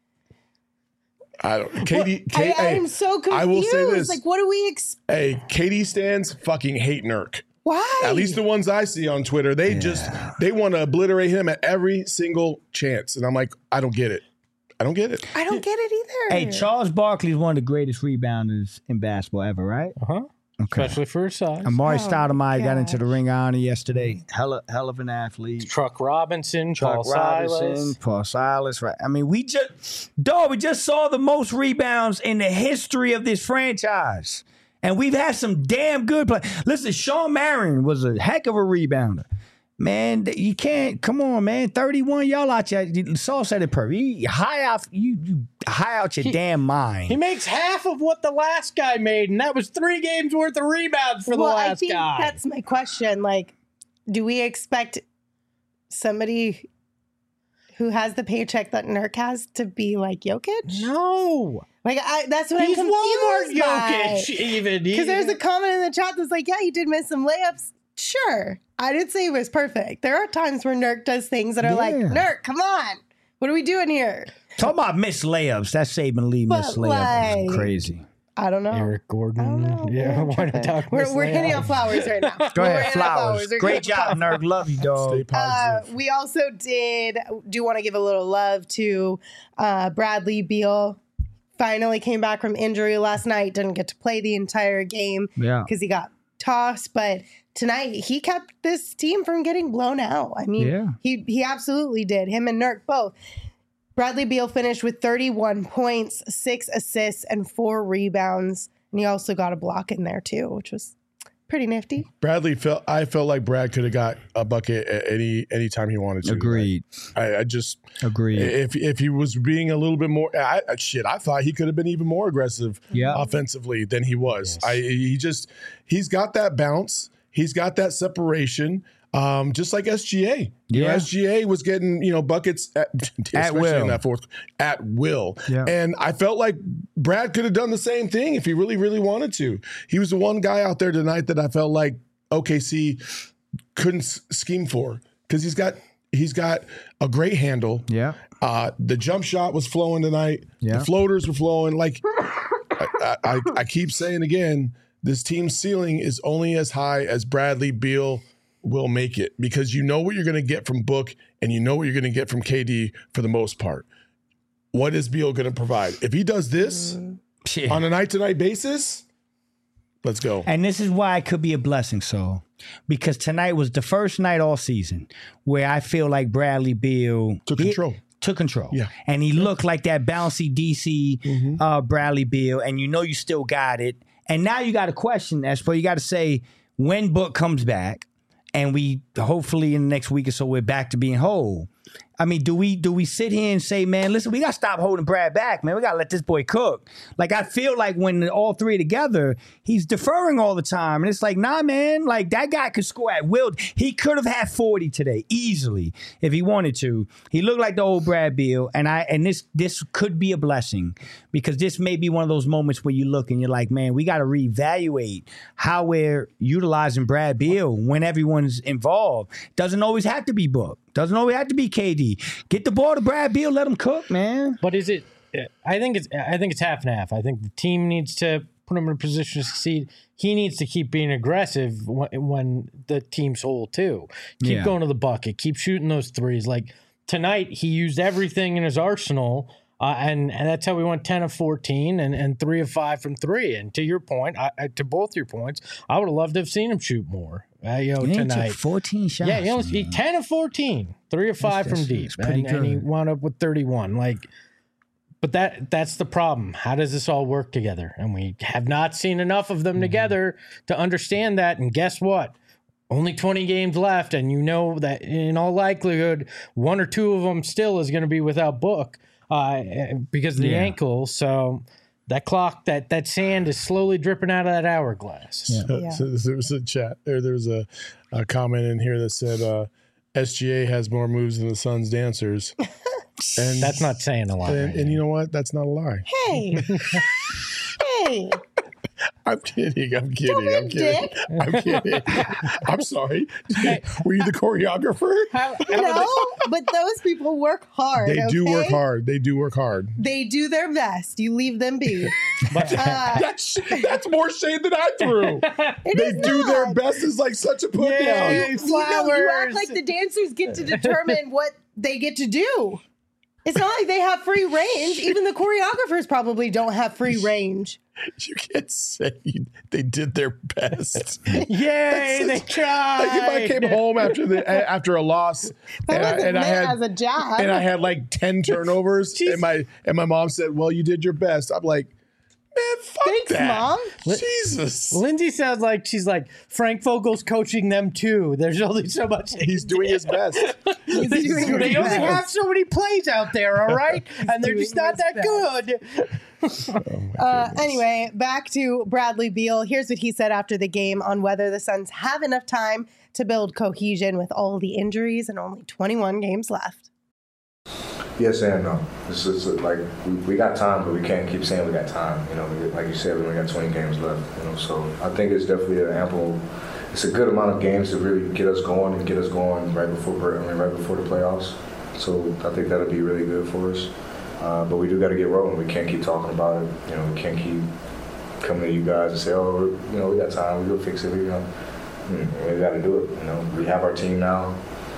I don't. Katie, I, Kate, hey, I'm so confused. I will say this. Like, what do we expect? Hey, Katie stands fucking hate Nurk. Why? At least the ones I see on Twitter, they just they want to obliterate him at every single chance, and I'm like, I don't get it. I don't get it. I don't get it either. Hey, Charles Barkley is one of the greatest rebounders in basketball ever, right? Uh-huh. Okay. Especially for his size. Amari Oh, Stoudemire got into gosh. the Ring of Honor yesterday. Hell, of- hell of an athlete. Truck Robinson, Chuck Paul Robinson, Silas. Paul Silas, right? I mean, we just, dog, we just saw the most rebounds in the history of this franchise. And we've had some damn good play. Listen, Sean Marion was a heck of a rebounder. Man, you can't, come on, man. thirty-one, y'all out here. Saul said it perfect. You high out, you, you high out your He- damn mind. He makes half of what the last guy made, and that was three games worth of rebounds for well, the I last think guy. that's my question. Like, do we expect somebody who has the paycheck that Nurk has to be like Jokic? no. Like, I, that's what He's I'm Walmart confused by. Jokic, even. He- Because there's a comment in the chat that's like, yeah, he did miss some layups Sure. I didn't say he was perfect. There are times where Nurk does things that are Yeah. like, Nurk, come on. What are we doing here? Talk about missed layups. That Saban Lee But, missed layup was like- crazy. I don't know. Eric I don't Gordon. know. Yeah, why not talk We're, Miss we're hitting Layup? on flowers right now. Go We're ahead, hitting on flowers. We're Great getting job, Nurk. Love you, Stay dog. Uh, positive. we also did do want to give a little love to uh, Bradley Beal. Finally came back from injury last night. Didn't get to play the entire game Yeah. because he got tossed. But tonight he kept this team from getting blown out. I mean, Yeah. he he absolutely did. Him and Nurk both. Bradley Beal finished with thirty-one points, six assists, and four rebounds. And he also got a block in there too, which was pretty nifty. Bradley felt. I felt like Brad could have got a bucket at any any time he wanted to. Agreed. I, I just Agreed. if if he was being a little bit more, I, I, shit, I thought he could have been even more aggressive Yeah. offensively than he was. Yes. I he just he's got that bounce. He's got that separation. Um, just like S G A. You know, Yeah. S G A was getting, you know, buckets at, especially will. in that fourth at will. Yeah. And I felt like Brad could have done the same thing if he really, really wanted to. He was the one guy out there tonight that I felt like O K C couldn't s- scheme for because he's got he's got a great handle. Yeah. Uh, the jump shot was flowing tonight. Yeah. The floaters were flowing. Like I, I, I keep saying again, this team's ceiling is only as high as Bradley Beal will make it because you know what you're going to get from Book and you know what you're going to get from K D for the most part. What is Beal going to provide? If he does this Yeah. on a night-to-night basis, let's go. And this is why it could be a blessing, so because tonight was the first night all season where I feel like Bradley Beal Took he- control. Took control. Yeah. And he looked like that bouncy D C uh, Bradley Beal, and you know you still got it. And now you got a question, Espo. You got to say when Book comes back, and we hopefully in the next week or so we're back to being whole. I mean, do we do we sit here and say, man, listen, we got to stop holding Brad back, man. We got to let this boy cook. Like, I feel like when all three are together, he's deferring all the time. And it's like, nah, man, like that guy could score at will. He could have had forty today easily if he wanted to. He looked like the old Brad Beal. And I and this this could be a blessing because this may be one of those moments where you look and you're like, man, we got to reevaluate how we're utilizing Brad Beal when everyone's involved. Doesn't always have to be Book. Doesn't always have to be K D. Get the ball to Brad Beal, let him cook, man. But is it? I think it's. I think it's half and half. I think the team needs to put him in a position to succeed. He needs to keep being aggressive when, when the team's whole too. Keep Yeah. going to the bucket. Keep shooting those threes. Like tonight, he used everything in his arsenal, uh, and and that's how we went ten of fourteen and, and three of five from three. And to your point, I, I, to both your points, I would have loved to have seen him shoot more. Uh, you know, He tonight. took fourteen shots. Yeah, he only he, man. ten of fourteen, three of five That's- from deep, that's pretty and, and he good. wound up with thirty-one. Like, but that that's the problem. How does this all work together? And we have not seen enough of them Mm-hmm. together to understand that. And guess what? Only twenty games left, and you know that in all likelihood, one or two of them still is going to be without Book uh, because of the Yeah. ankle. So. That clock, that that sand is slowly dripping out of that hourglass. Yeah. So there was a chat, or there was a, a comment in here that said uh, S G A has more moves than the Suns dancers. And That's not saying a lot. And, right and now. you know what? That's not a lie. Hey. Hey. I'm kidding. I'm kidding. Don't be a I'm kidding. dick. I'm kidding. I'm sorry. Were you the choreographer? No, but those people work hard. They do okay? work hard. They do work hard. They do their best. You leave them be. But Uh, That's that's more shade than I threw. it They is do not. their best is like such a put Yay. down. You, know, you act Flowers. like the dancers get to determine what they get to do. It's not like they have free range. Even the choreographers probably don't have free range. You can't say they did their best. yay, they tried. Like if I came home after the after a loss That and, I, wasn't and I meant had as a jab. and I had like ten turnovers and my and my mom said, "Well, you did your best." I'm like, "Man, fuck Thanks, that." Mom. Jesus. Lindsay sounds like she's like Frank Vogel's coaching them too. There's only so much they He's can doing do. his best. He's They, doing they his only best. have so many plays out there, all right, and they're doing just not his that best. good. Uh, anyway, back to Bradley Beal. Here's what he said after the game on whether the Suns have enough time to build cohesion with all the injuries and only twenty-one games left. Yes and no. This is like we, we got time, but we can't keep saying we got time. You know, we, like you said, we only got twenty games left. You know, so I think it's definitely an ample. it's a good amount of games to really get us going and get us going right before I mean right before the playoffs. So I think that'll be really good for us. Uh, but we do got to get rolling. We can't keep talking about it. You know, we can't keep coming to you guys and say, oh, you know, we got time. We'll fix it. You know, we got to do it. You know, we have our team now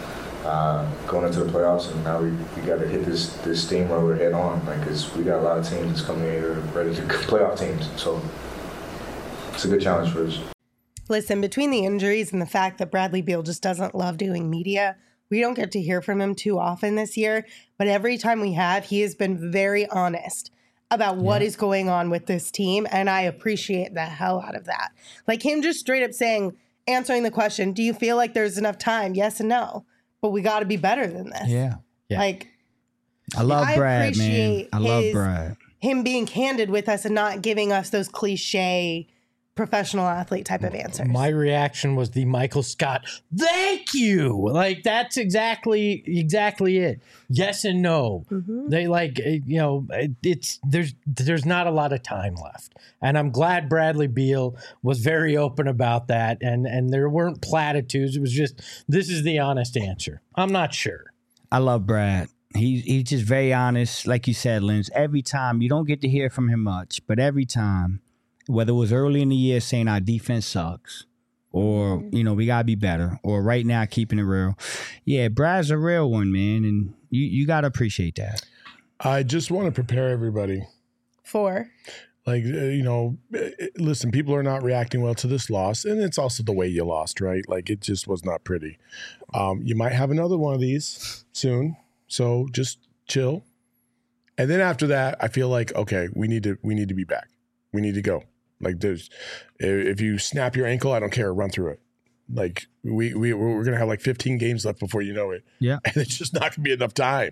uh, going into the playoffs, and now we, we got to hit this this steamroller head on. Like, cause we got a lot of teams that's coming in here ready to playoff teams. So it's a good challenge for us. Listen, between the injuries and the fact that Bradley Beal just doesn't love doing media, we don't get to hear from him too often this year. But every time we have, he has been very honest about what yeah. is going on with this team. And I appreciate the hell out of that. Like him just straight up saying, answering the question, do you feel like there's enough time? Yes and no. But we got to be better than this. Yeah. yeah. Like, I love I Brad, man. I love his, Brad. Him being candid with us and not giving us those cliche professional athlete type of answers. My reaction was the Michael Scott, thank you. Like, that's exactly, exactly it. Yes and no. Mm-hmm. They like, you know, it's, there's, there's not a lot of time left. And I'm glad Bradley Beal was very open about that. And, and there weren't platitudes. It was just, this is the honest answer. I'm not sure. I love Brad. He, he's just very honest. Like you said, Linz, every time you don't get to hear from him much, but every time, whether it was early in the year saying our defense sucks or, you know, we got to be better or right now keeping it real. Yeah, Brad's a real one, man. And you, you got to appreciate that. I just want to prepare everybody. For? Like, uh, you know, listen, people are not reacting well to this loss. And it's also the way you lost, right? Like, it just was not pretty. Um, you might have another one of these soon. So just chill. And then after that, I feel like, okay, we need to we need to be back. We need to go. Like, there's, if you snap your ankle, I don't care. Run through it. Like, we, we, we're going to have like fifteen games left before you know it. Yeah. And it's just not going to be enough time.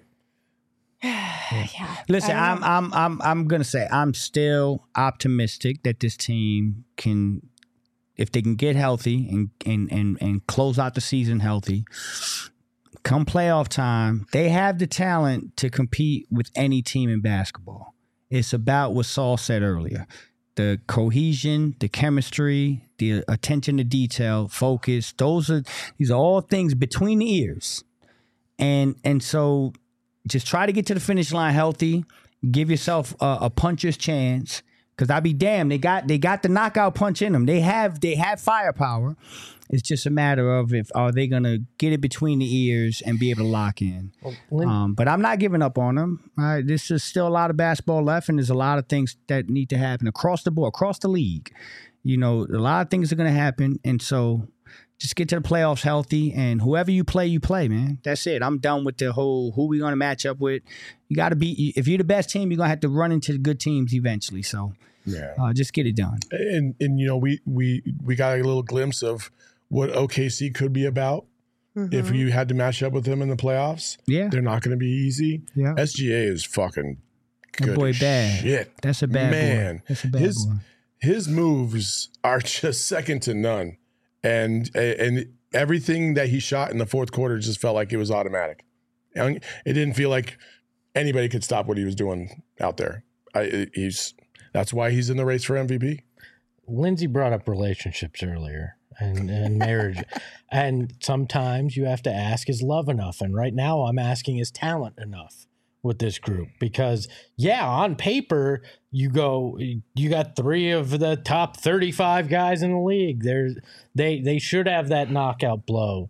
yeah. Listen, I'm, I'm, I'm, I'm going to say I'm still optimistic that this team can, if they can get healthy and, and, and, and close out the season healthy, come playoff time, they have the talent to compete with any team in basketball. It's about what Saul said earlier. The cohesion, the chemistry, the attention to detail, focus, those are these are all things between the ears. And and so just try to get to the finish line healthy, give yourself a, a puncher's chance. Because I'll be damned, they got they got the knockout punch in them. They have they have firepower. It's just a matter of if are they gonna get it between the ears and be able to lock in. Well, um, but I'm not giving up on them. Uh, this is still a lot of basketball left, and there's a lot of things that need to happen across the board, across the league. You know, a lot of things are gonna happen, and so just get to the playoffs healthy. And whoever you play, you play, man. That's it. I'm done with the whole who we gonna match up with. You got to be if you're the best team, you're gonna have to run into the good teams eventually. So yeah, uh, just get it done. And and you know we we we got a little glimpse of what O K C could be about mm-hmm. if you had to match up with them in the playoffs. Yeah. They're not going to be easy. Yeah. S G A is fucking good. That boy bad. Shit. That's a bad Man. boy. That's a bad his, boy. His moves are just second to none. And and everything that he shot in the fourth quarter just felt like it was automatic. It didn't feel like anybody could stop what he was doing out there. I, he's That's why he's in the race for M V P. Lindsay brought up relationships earlier. And, and marriage. And sometimes you have to ask, is love enough? And right now I'm asking, is talent enough with this group? Because, yeah, on paper, you go, you got three of the top thirty-five guys in the league. They're, they they should have that knockout blow.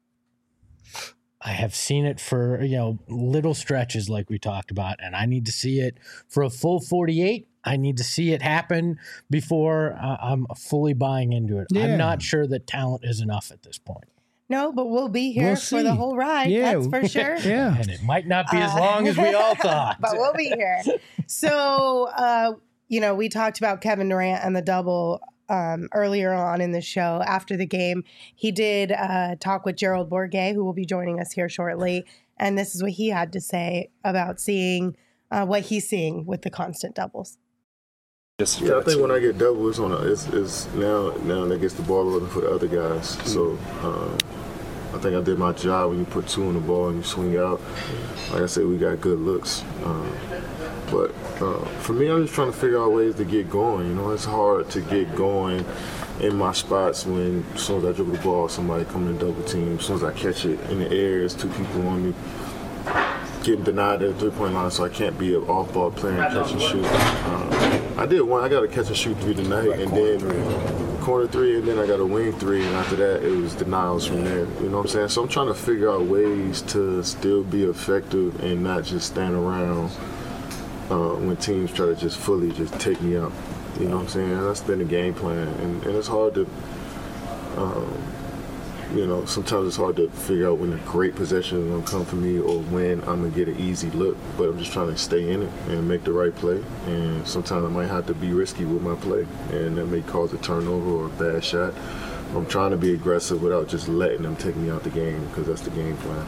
I have seen it for, you know, little stretches like we talked about, and I need to see it for a full forty-eight. I need to see it happen before uh, I'm fully buying into it. Yeah. I'm not sure that talent is enough at this point. No, but we'll be here we'll for the whole ride. Yeah. That's for sure. Yeah. And it might not be as long uh, as we all thought. But we'll be here. So, uh, you know, we talked about Kevin Durant and the double um, earlier on in the show. After the game, he did uh, talk with Gerald Bourguet, who will be joining us here shortly. And this is what he had to say about seeing uh, what he's seeing with the constant doubles. Just yeah, I think when I get double, it's on a, it's, it's now now that gets the ball rolling for the other guys. Mm-hmm. So um, I think I did my job when you put two on the ball and you swing out. Like I said, we got good looks. Um, But uh, for me, I'm just trying to figure out ways to get going. You know, it's hard to get going in my spots when as soon as I dribble the ball, somebody coming to double team. As soon as I catch it in the air, there's two people on me. Getting denied at the three-point line, so I can't be an off-ball player and catch and shoot. Uh, I did one. I got a catch and shoot three tonight, and then corner three, and then I got a wing three, and after that, it was denials from there. You know what I'm saying? So I'm trying to figure out ways to still be effective and not just stand around uh, when teams try to just fully just take me out. You know what I'm saying? That's been the game plan, and, and it's hard to. Um, You know, sometimes it's hard to figure out when a great possession is going to come for me or when I'm going to get an easy look. But I'm just trying to stay in it and make the right play. And sometimes I might have to be risky with my play. And that may cause a turnover or a bad shot. I'm trying to be aggressive without just letting them take me out the game because that's the game plan.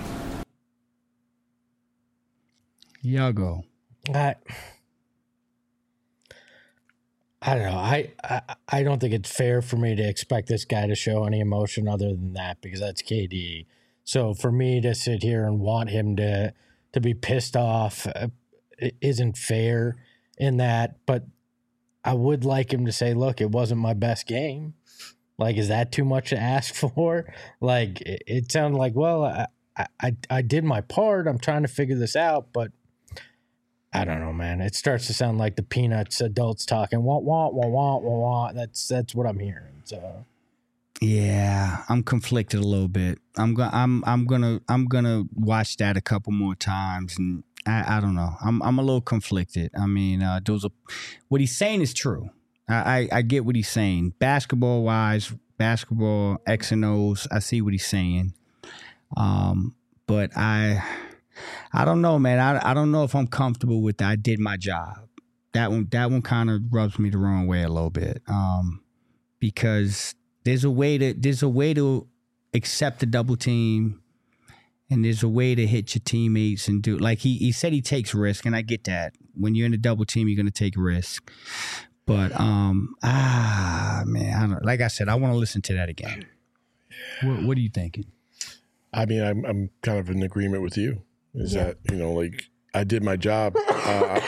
Y'all go. I, I don't know. I, I I don't think it's fair for me to expect this guy to show any emotion other than that because that's K D. So for me to sit here and want him to to be pissed off uh, isn't fair in that. But I would like him to say, "Look, it wasn't my best game." Like, is that too much to ask for? Like, it, it sounded like, well, I, I I did my part. I'm trying to figure this out, but. I don't know, man. It starts to sound like the Peanuts adults talking. Wah, wah, wah, wah, wah, wah. That's that's what I'm hearing. So, yeah, I'm conflicted a little bit. I'm gonna I'm I'm gonna I'm gonna watch that a couple more times, and I, I don't know. I'm I'm a little conflicted. I mean, uh, those are what he's saying is true. I, I I get what he's saying. Basketball wise, basketball X and O's. I see what he's saying. Um, but I. I don't know, man. I I don't know if I'm comfortable with that. I did my job. That one that one kind of rubs me the wrong way a little bit. Um, because there's a way to there's a way to accept the double team, and there's a way to hit your teammates and do like he he said he takes risk, and I get that. When you're in a double team, you're gonna take risk. But um ah man, I don't like I said, I want to listen to that again. What what are you thinking? I mean, I'm I'm kind of in agreement with you. Is yeah. that, you know, like I did my job. Uh,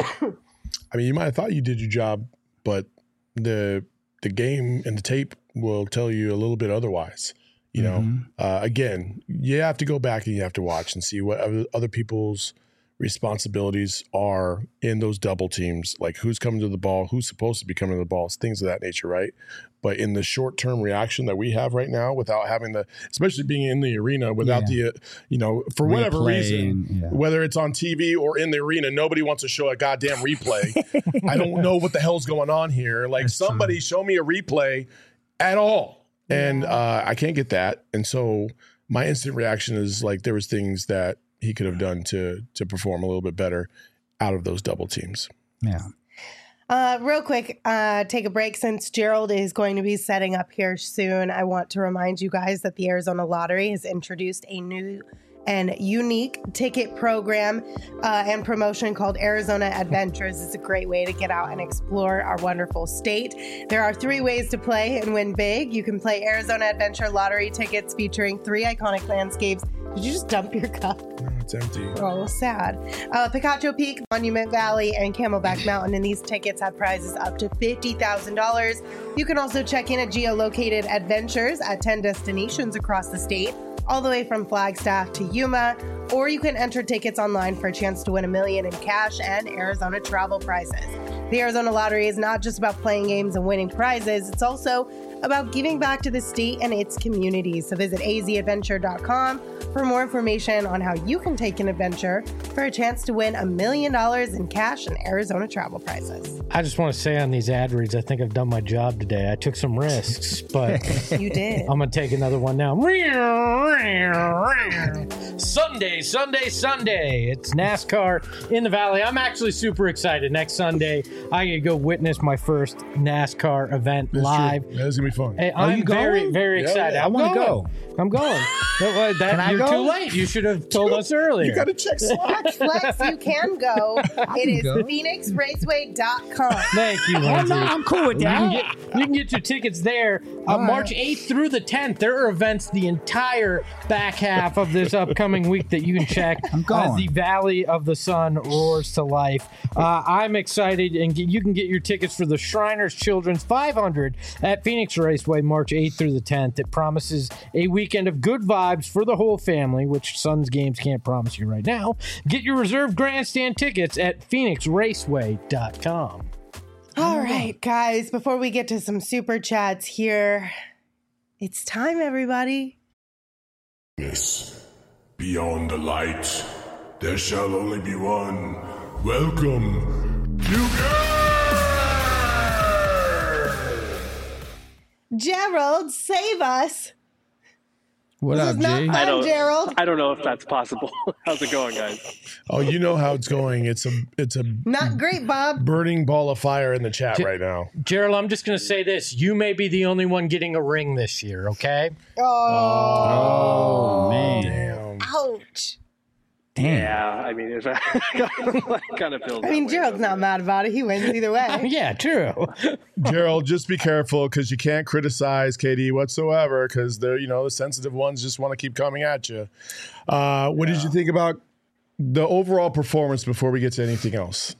I mean, you might have thought you did your job, but the the game and the tape will tell you a little bit otherwise. You know, mm-hmm. uh, again, you have to go back and you have to watch and see what other people's responsibilities are in those double teams, like who's coming to the ball, who's supposed to be coming to the ball, things of that nature, right? But in the short-term reaction that we have right now, without having the, especially being in the arena, without yeah. the, you know, for replay whatever reason, and, yeah. whether it's on T V or in the arena, nobody wants to show a goddamn replay. I don't know what the hell's going on here. Like That's somebody true. Show me a replay at all. And uh, I can't get that. And so my instant reaction is like there was things that he could have done to to perform a little bit better out of those double teams. Yeah. Uh, real quick, uh, take a break since Gerald is going to be setting up here soon. I want to remind you guys that the Arizona Lottery has introduced a new and unique ticket program uh, and promotion called Arizona Adventures. It's a great way to get out and explore our wonderful state. There are three ways to play and win big. You can play Arizona Adventure Lottery tickets featuring three iconic landscapes. Did you just dump your cup? It's empty. Oh, sad. Uh, Picacho Peak, Monument Valley, and Camelback Mountain, and these tickets have prizes up to fifty thousand dollars. You can also check in at geolocated adventures at ten destinations across the state, all the way from Flagstaff to Yuma, or you can enter tickets online for a chance to win a million in cash and Arizona travel prizes. The Arizona Lottery is not just about playing games and winning prizes, it's also about giving back to the state and its communities. So visit a z adventure dot com for more information on how you can take an adventure for a chance to win a million dollars in cash and Arizona travel prizes. I just want to say on these ad reads, I think I've done my job today. I took some risks, but you did. I'm going to take another one now. Sunday, Sunday, Sunday. It's NASCAR in the Valley. I'm actually super excited. Next Sunday, I get to go witness my first NASCAR event That's live. That's gonna be fun. Hey, Are I'm you very, going? very Yeah, excited. yeah. I'm I wanna going. go. I'm going. No, uh, that, Can I you're go? too late. You should have told us earlier. You got to check Slack. Flex, you can go. It is go. phoenix raceway dot com. Thank you, Oh, Lindsay. no, I'm cool with You can, that. get, you can get your tickets there uh, right. March eighth through the tenth. There are events the entire back half of this upcoming week that you can check I'm going. as the Valley of the Sun roars to life. Uh, I'm excited, and get, you can get your tickets for the Shriners Children's five hundred at Phoenix Raceway March eighth through the tenth. It promises a weekend of good vibes for the whole family, which Suns games can't promise you right now. Get your reserved grandstand tickets at phoenix raceway dot com. All right, guys, before we get to some super chats here, it's time, everybody. Yes. Beyond the light, there shall only be one. Welcome to Gerald, save us. What This up, is not G? fun, I don't, Gerald. I don't know if that's possible. How's it going, guys? Oh, you know how it's going. It's a it's a Not great, Bob. burning ball of fire in the chat right now. Gerald, I'm just going to say this. You may be the only one getting a ring this year, okay? Oh, man. Damn. Ouch. Damn. Yeah, I mean, if I kind of feels. I mean, that way, Gerald's doesn't not it? mad about it. He wins either way. Yeah, true. Gerald, just be careful because you can't criticize K D whatsoever because they're, you know, the sensitive ones just want to keep coming at you. Uh, what did you think about the overall performance before we get to anything else?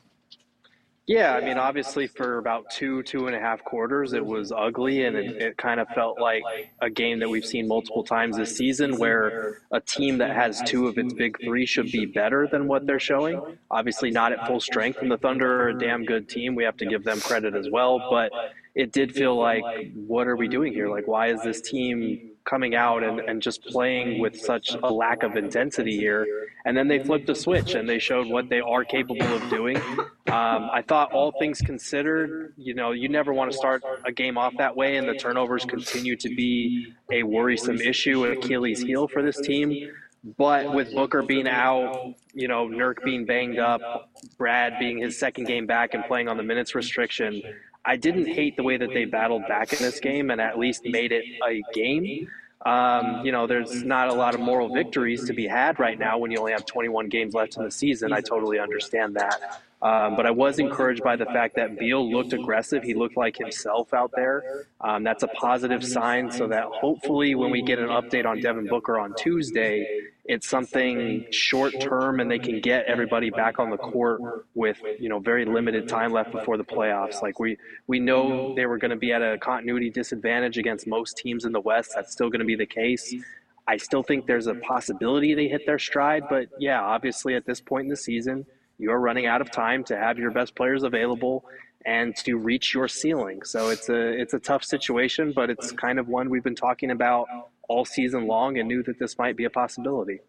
Yeah, I mean, obviously, for about two, two and a half quarters, it was ugly, and it, it kind of felt like a game that we've seen multiple times this season where a team that has two of its big three should be better than what they're showing. Obviously, not at full strength, and the Thunder are a damn good team. We have to give them credit as well, but it did feel like, what are we doing here? Like, why is this team coming out and, and just playing with such a lack of intensity here? And then they flipped the switch and they showed what they are capable of doing. Um, I thought all things considered, you know, you never want to start a game off that way, and the turnovers continue to be a worrisome issue, an Achilles heel for this team. But with Booker being out, you know, Nurk being banged up, Brad being his second game back and playing on the minutes restriction, I didn't hate the way that they battled back in this game and at least made it a game. Um, you know, there's not a lot of moral victories to be had right now when you only have twenty-one games left in the season. I totally understand that. Um, but I was encouraged by the fact that Beal looked aggressive. He looked like himself out there. Um, that's a positive sign, so that hopefully when we get an update on Devin Booker on Tuesday, it's something short term and they can get everybody back on the court with, you know, very limited time left before the playoffs. Like we, we know they were going to be at a continuity disadvantage against most teams in the West. That's still going to be the case. I still think there's a possibility they hit their stride, but yeah, obviously at this point in the season, you're running out of time to have your best players available and to reach your ceiling. So it's a it's a tough situation, but it's kind of one we've been talking about all season long and knew that this might be a possibility.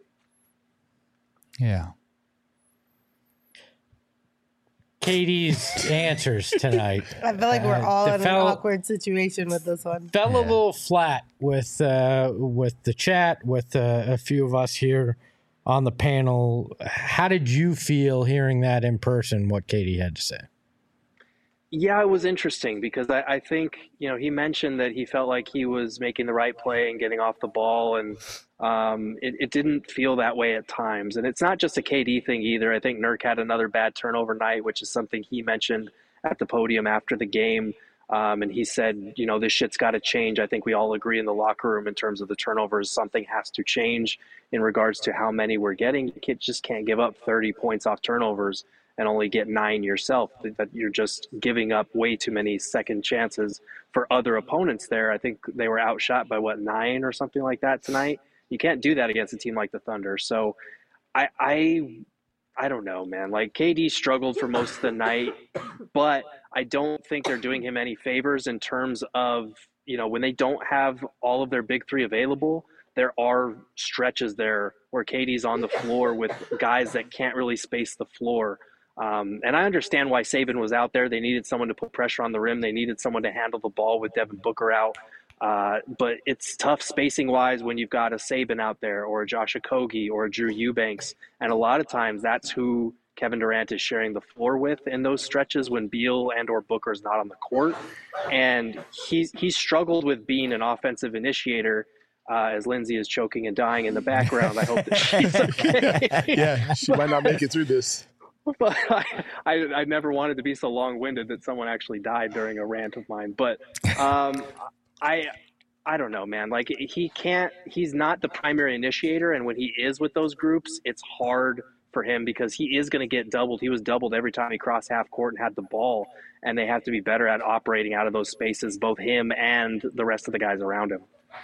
Yeah. Katie's answers tonight. I feel like we're Uh, all the in fellow- an awkward situation with this one. Fell a little flat with uh, with the chat, with uh, a few of us here on the panel. How did you feel hearing that in person, what Katie had to say? Yeah, it was interesting because I, I think, you know, he mentioned that he felt like he was making the right play and getting off the ball, and um, it, it didn't feel that way at times. And it's not just a K D thing either. I think Nurk had another bad turnover night, which is something he mentioned at the podium after the game. Um, and he said, you know, this shit's got to change. I think we all agree in the locker room in terms of the turnovers. Something has to change in regards to how many we're getting. You can't, just can't give up thirty points off turnovers and only get nine yourself. That you're just giving up way too many second chances for other opponents there. I think they were outshot by, what, nine or something like that tonight. You can't do that against a team like the Thunder. So I I, I don't know, man. Like, K D struggled for most of the night, but I don't think they're doing him any favors in terms of, you know, when they don't have all of their big three available, there are stretches there where K D's on the floor with guys that can't really space the floor. Um, and I understand why Saban was out there. They needed someone to put pressure on the rim. They needed someone to handle the ball with Devin Booker out. Uh, but it's tough spacing-wise when you've got a Saban out there or a Josh Okogie or a Drew Eubanks. And a lot of times that's who Kevin Durant is sharing the floor with in those stretches when Beal and or Booker is not on the court. And he's, he struggled with being an offensive initiator. Uh, as Lindsay is choking and dying in the background, I hope that she's okay. Yeah, she might not make it through this. But I, I, I never wanted to be so long-winded that someone actually died during a rant of mine. But um, I, I don't know, man. Like he can't. He's not the primary initiator, and when he is with those groups, it's hard for him because he is going to get doubled. He was doubled every time he crossed half court and had the ball, and they have to be better at operating out of those spaces, both him and the rest of the guys around him.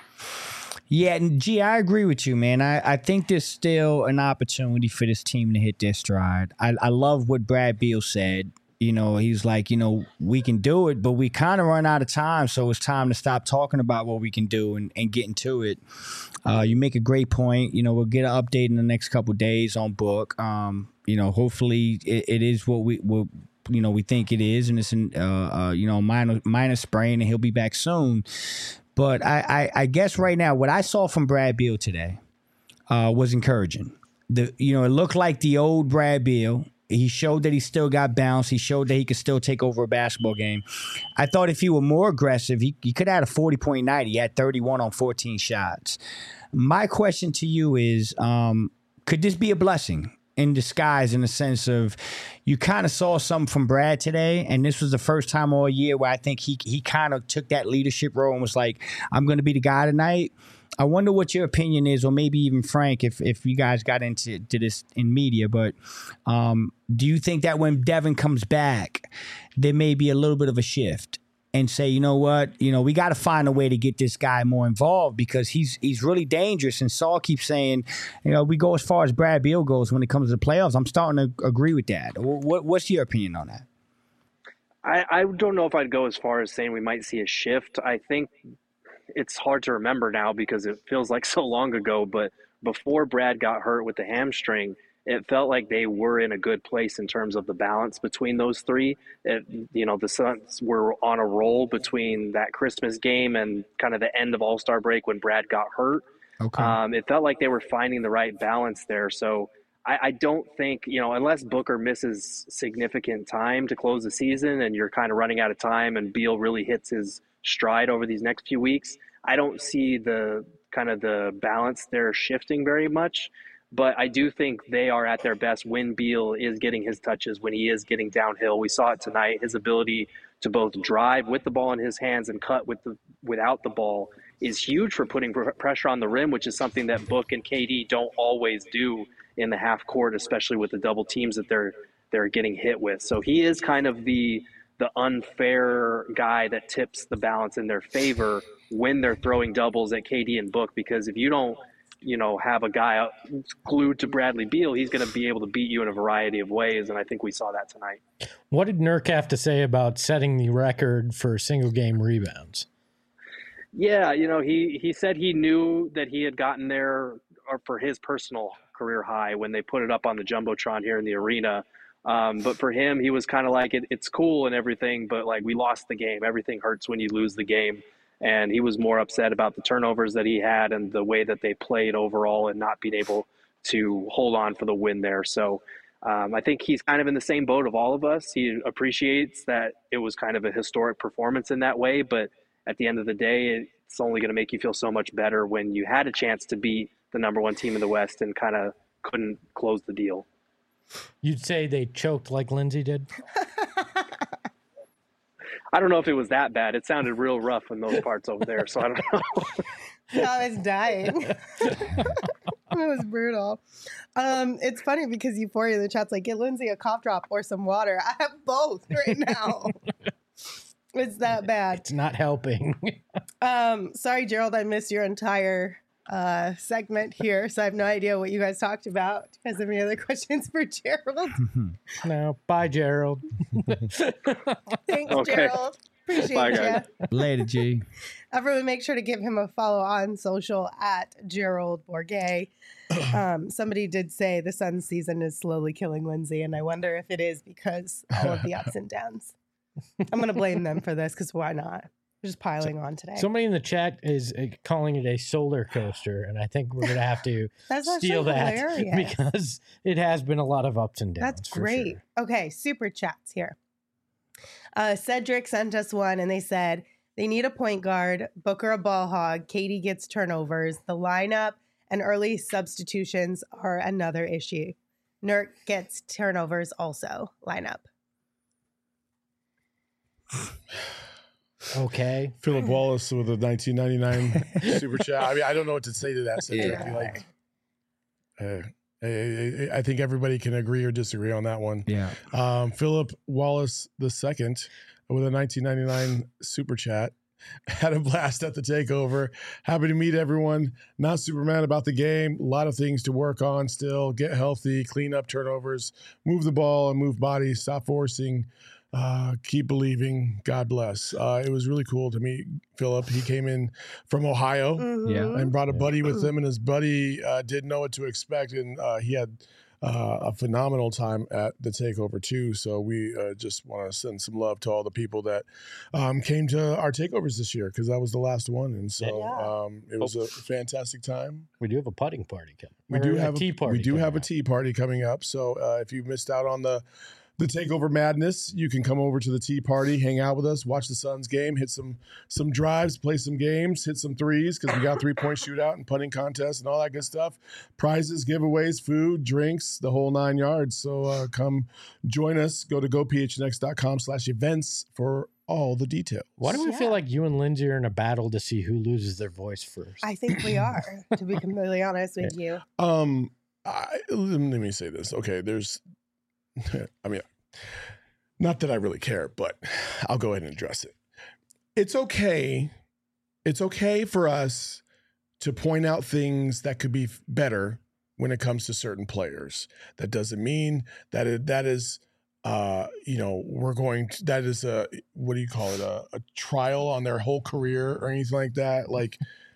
Yeah, and gee, I agree with you, man. I, I think there's still an opportunity for this team to hit their stride. I, I love what Brad Beal said. You know, he's like, you know, we can do it, but we kind of run out of time, so it's time to stop talking about what we can do and, and get into it. Uh, you make a great point. You know, we'll get an update in the next couple of days on Book. Um, you know, hopefully it, it is what we will. You know, we think it is, and it's an, uh, uh, you know, minor minor sprain, and he'll be back soon. But I, I, I guess right now, what I saw from Brad Beal today uh, was encouraging. The you know, it looked like the old Brad Beal. He showed that he still got bounce. He showed that he could still take over a basketball game. I thought if he were more aggressive, he, he could have had a forty-point night. He had thirty-one on fourteen shots. My question to you is, um, could this be a blessing in disguise, in the sense of you kind of saw something from Brad today, and this was the first time all year where I think he he kind of took that leadership role and was like, I'm going to be the guy tonight. I wonder what your opinion is, or maybe even Frank, if if you guys got into to this in media, but um, do you think that when Devin comes back, there may be a little bit of a shift and say, you know what, you know, we got to find a way to get this guy more involved because he's he's really dangerous. And Saul keeps saying, you know, we go as far as Brad Beal goes when it comes to the playoffs. I'm starting to agree with that. What, what's your opinion on that? I, I don't know if I'd go as far as saying we might see a shift. I think it's hard to remember now because it feels like so long ago, but before Brad got hurt with the hamstring, it felt like they were in a good place in terms of the balance between those three. It, you know, the Suns were on a roll between that Christmas game and kind of the end of All-Star break when Brad got hurt. Okay. Um, it felt like they were finding the right balance there. So I, I don't think, you know, unless Booker misses significant time to close the season and you're kind of running out of time and Beal really hits his stride over these next few weeks, I don't see the kind of the balance there shifting very much. But I do think they are at their best when Beal is getting his touches, when he is getting downhill. We saw it tonight. His ability to both drive with the ball in his hands and cut with the without the ball is huge for putting pr- pressure on the rim, which is something that Book and K D don't always do in the half court, especially with the double teams that they're they're getting hit with. So he is kind of the the unfair guy that tips the balance in their favor when they're throwing doubles at K D and Book, because if you don't, you know, have a guy glued to Bradley Beal, he's going to be able to beat you in a variety of ways, and I think we saw that tonight. What did Nurk have to say about setting the record for single game rebounds? Yeah, you know, he, he said he knew that he had gotten there for his personal career high when they put it up on the Jumbotron here in the arena. Um, but for him, he was kind of like, it, it's cool and everything, but like we lost the game. Everything hurts when you lose the game. And he was more upset about the turnovers that he had and the way that they played overall and not being able to hold on for the win there. So um, I think he's kind of in the same boat of all of us. He appreciates that it was kind of a historic performance in that way. But at the end of the day, it's only going to make you feel so much better when you had a chance to beat the number one team in the West and kind of couldn't close the deal. You'd say they choked like Lindsay did? I don't know if it was that bad. It sounded real rough in those parts over there, so I don't know. I was dying. It was brutal. Um, it's funny because Euphoria in the chat's like, get Lindsay a cough drop or some water. I have both right now. It's that bad. It's not helping. um, sorry, Gerald, I missed your entire uh, segment here, so I have no idea what you guys talked about. Do you guys have any other questions for Gerald? No. Bye, Gerald. Thanks, Okay. Gerald. Appreciate Bye, guys. you. Later, G. Everyone, make sure to give him a follow on social at Gerald Bourget. Um, somebody did say the Suns season is slowly killing Lindsay, and I wonder if it is because all of the ups and downs. I'm going to blame them for this because why not? Just piling on today. Somebody in the chat is uh, calling it a solar coaster, and I think we're gonna have to That's steal that hilarious. because it has been a lot of ups and downs. That's for great. sure. Okay, super chats here. Uh, Cedric sent us one, and they said they need a point guard, Booker a ball hog, Katie gets turnovers, the lineup and early substitutions are another issue. Nurk gets turnovers also. Lineup. Okay. Philip Wallace with a nineteen ninety-nine super chat. I mean, I don't know what to say to that. Cedric. Yeah. Like, uh, I, I think everybody can agree or disagree on that one. Yeah. Um, Philip Wallace the second with a nineteen ninety-nine super chat. Had a blast at the takeover. Happy to meet everyone. Not super mad about the game. A lot of things to work on still. Get healthy, clean up turnovers, move the ball and move bodies, stop forcing. Uh, keep believing. God bless. Uh, it was really cool to meet Philip. He came in from Ohio Mm-hmm. Yeah. and brought a buddy with him, and his buddy uh, didn't know what to expect, and uh, he had uh, a phenomenal time at the takeover too. So we uh, just want to send some love to all the people that um, came to our takeovers this year, because that was the last one, and so Yeah. um, it was a fantastic time. We do have a putting party coming. We Or do have a tea party. We do coming have a up. tea party coming up. So uh, if you missed out on the the takeover madness, you can come over to the tea party, hang out with us, watch the Suns game, hit some some drives, play some games, hit some threes, because we got three point shootout and putting contests and all that good stuff. Prizes, giveaways, food, drinks, the whole nine yards. So uh, come join us. Go to gophnx.com slash events for all the details. Why do we Yeah. feel like you and Lindsay are in a battle to see who loses their voice first? I think we are, to be completely honest with you. Um, I, let me say this. Okay, there's, I mean, not that I really care, but I'll go ahead and address it. It's okay. It's okay for us to point out things that could be f- better when it comes to certain players. That doesn't mean that it, that is, uh, you know, we're going to, that is a, what do you call it? A, a trial on their whole career or anything like that. Like,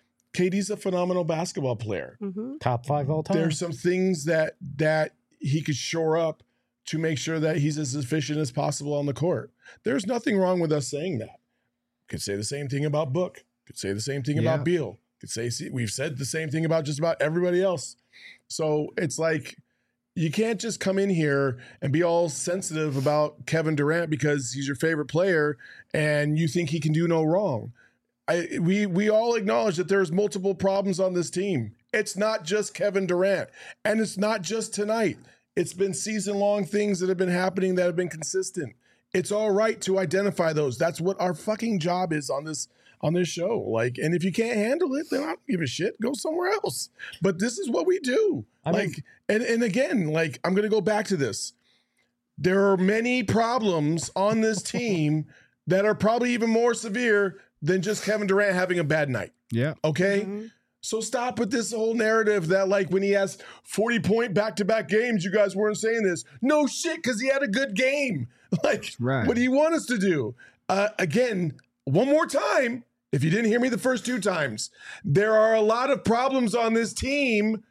K D's a phenomenal basketball player. Mm-hmm. Top five all time. There's some things that that he could shore up to make sure that he's as efficient as possible on the court. There's nothing wrong with us saying that. Could say the same thing about Book. Could say the same thing Yeah. about Beal. Could say see, we've said the same thing about just about everybody else. So it's like you can't just come in here and be all sensitive about Kevin Durant because he's your favorite player and you think he can do no wrong. I, we we all acknowledge that there's multiple problems on this team. It's not just Kevin Durant, and it's not just tonight. It's been season-long things that have been happening that have been consistent. It's all right to identify those. That's what our fucking job is on this on this show. Like, and if you can't handle it, then I don't give a shit. Go somewhere else. But this is what we do. I mean- like, and and again, like I'm gonna go back to this. There are many problems on this team that are probably even more severe than just Kevin Durant having a bad night. Yeah. Okay? Mm-hmm. So stop with this whole narrative that like when he has forty point back-to-back games, you guys weren't saying this. No shit, because he had a good game. Like, Right. what do you want us to do? Uh, again, one more time, if you didn't hear me the first two times, there are a lot of problems on this team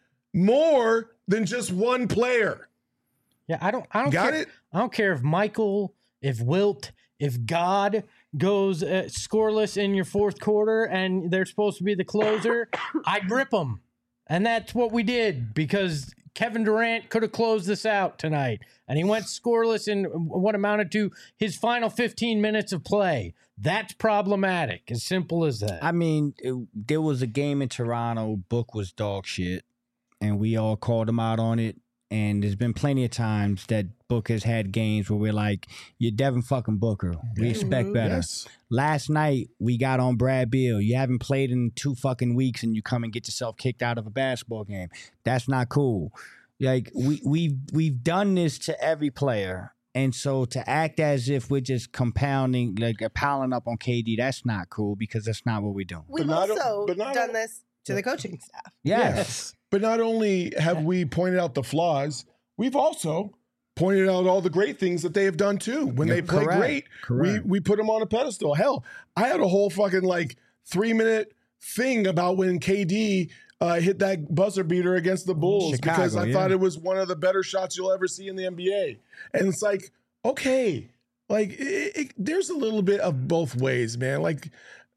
more than just one player. Yeah, I don't. I don't Got care. it? I don't care if Michael, if Wilt, if God goes uh, scoreless in your fourth quarter and they're supposed to be the closer. I'd rip them, and that's what we did because Kevin Durant could have closed this out tonight, and he went scoreless in what amounted to his final fifteen minutes of play. That's problematic. As simple as that. I mean, it, there was a game in Toronto. Book was dog shit, and we all called him out on it. And there's been plenty of times that Book has had games where we're like, you're Devin fucking Booker. We expect better. Yes. Last night, we got on Brad Beal. You haven't played in two fucking weeks and you come and get yourself kicked out of a basketball game. That's not cool. Like, we, we've, we've done this to every player. And so to act as if we're just compounding, like piling up on K D, that's not cool because that's not what we're doing. We've not o- also but not done o- this to the coaching staff. Yes. But not only have we pointed out the flaws, we've also pointed out all the great things that they have done too. When they play Correct. great, Correct. we we put them on a pedestal. Hell, I had a whole fucking like three minute thing about when K D uh, hit that buzzer beater against the Bulls Chicago, because I yeah. thought it was one of the better shots you'll ever see in the N B A. And it's like, okay, like it, it, there's a little bit of both ways, man. Like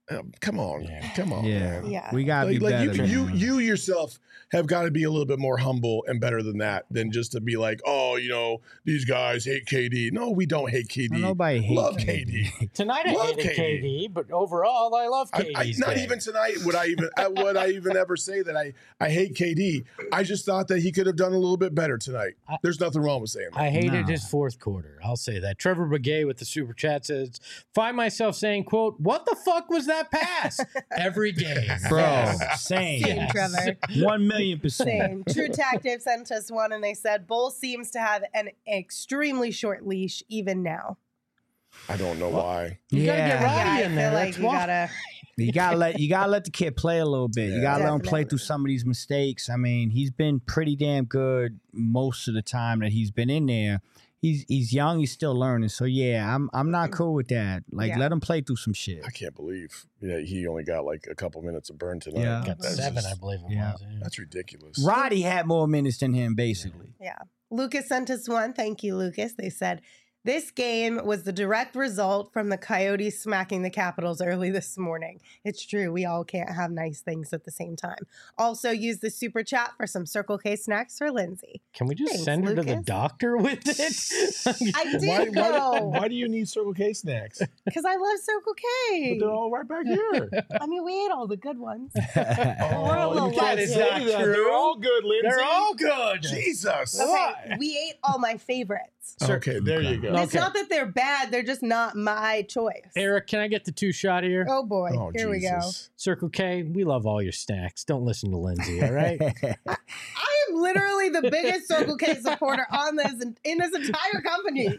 Um, come on, Yeah. come on, Yeah. man. Yeah. We gotta Like, be like better. you, you, man. you yourself have got to be a little bit more humble and better than that, than just to be like, oh, you know, these guys hate K D. No, we don't hate K D. Nobody hates Love K K D. D. Tonight I Love hated K D. K D, but overall I love I, K I, D's not game. even tonight would I even uh, would I even ever say that I, I hate K D. I just thought that he could have done a little bit better tonight. I- There's nothing wrong with saying that. I hated No. his fourth quarter. I'll say that. Trevor Begay with the super chat says, find myself saying, quote, what the fuck was that pass? Every game. Bro, Yes. same. Same, Trevor. One million percent. Same. True Tactive sent us one, and they said Bull seems to have an extremely short leash even now. I don't know why. You gotta get Yeah. Roddy Yeah, I in feel there. like That's you why. gotta. You gotta let you gotta let the kid play a little bit. You gotta let him play Definitely. through some of these mistakes. I mean, he's been pretty damn good most of the time that he's been in there. He's he's young, he's still learning. So yeah, I'm I'm not cool with that. Like Yeah. let him play through some shit. I can't believe that he only got like a couple minutes of burn tonight. Yeah. Got That's seven, just- I believe it Yeah. was. Yeah. That's ridiculous. Roddy had more minutes than him, basically. Yeah. Lucas sent us one. Thank you, Lucas. They said, this game was the direct result from the Coyotes smacking the Capitals early this morning. It's true. We all can't have nice things at the same time. Also, use the super chat for some Circle K snacks for Lindsay. Can we just Thanks, send her to the Lucas. doctor with it? I did Why, why, go why do you need Circle K snacks? because I love Circle K. But they're all right back here. I mean, we ate all the good ones. Oh, little you can't less. say That is not that. true. They're all good, Lindsay. They're all good. Jesus. Okay, we ate all my favorites. Okay, there you go. It's not that they're bad; they're just not my choice. Eric, can I get the two shot here? Oh boy, Oh, here we go. Jesus. Circle K, we love all your snacks. Don't listen to Lindsay, all right? I am literally the biggest Circle K supporter on this in this entire company.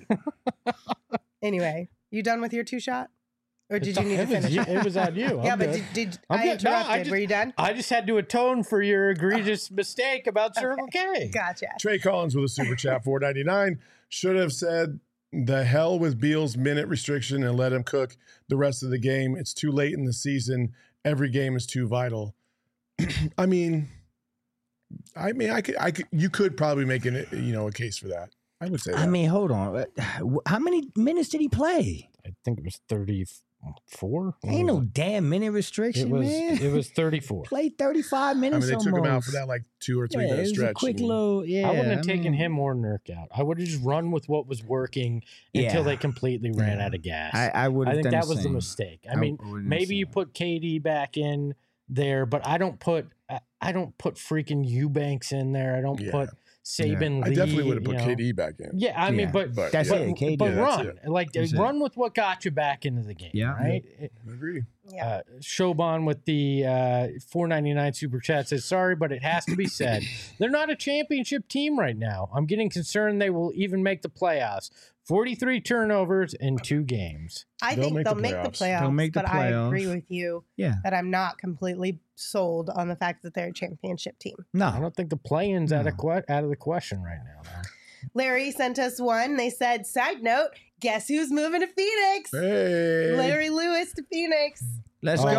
Anyway, you done with your two shot, or did It's you on- need to it was finish? you- it? It was on you. Yeah, I'm but good. did, did I'm I good. No, I interrupted? just- Were you done? I just had to atone for your egregious mistake about Circle K. Gotcha. Trey Collins with a super chat, four ninety-nine. Should have said the hell with Beal's minute restriction and let him cook the rest of the game. It's too late in the season. Every game is too vital. I mean, I mean, I could, I could, you could probably make an, you know, a case for that. I would say that. I mean, hold on. How many minutes did he play? I think it was thirty-four. Ain't no damn minute It restriction, was, man. it was thirty-four. Played thirty-five I mean, minutes they took him out almost. for that like two or three Yeah, it minute was stretch. a quick and- little, yeah. I wouldn't have I taken mean, him or Nurk out. I would have just run with what was working until Yeah. they completely ran Yeah. out of gas. I, I would I have think done that the was the same. mistake. I I mean, would've done the maybe you same. put K D back in there, but I don't put I, I don't put freaking Eubanks in there. I don't Yeah. put Saban I Lee. definitely would have you put know. K D back in. Yeah, I mean, Yeah. but But That's yeah. it, K D. but Yeah, that's run it. like That's it. run with what got you back into the game. Yeah. right. I agree. Yeah. Uh, Shoban with the uh, four ninety-nine super chat says, sorry, but it has to be said. They're not a championship team right now. I'm getting concerned they will even make the playoffs. forty-three turnovers in two games. I They'll think make they'll the make the playoffs. playoffs, They'll make the but I agree playoffs. with you Yeah. that I'm not completely sold on the fact that they're a championship team. I No. don't think the play-in's out, of No. que- out of the question right now. man. Larry sent us one. They said, side note, guess who's moving to Phoenix? Hey. Larry Lewis to Phoenix. Let's Oh. go.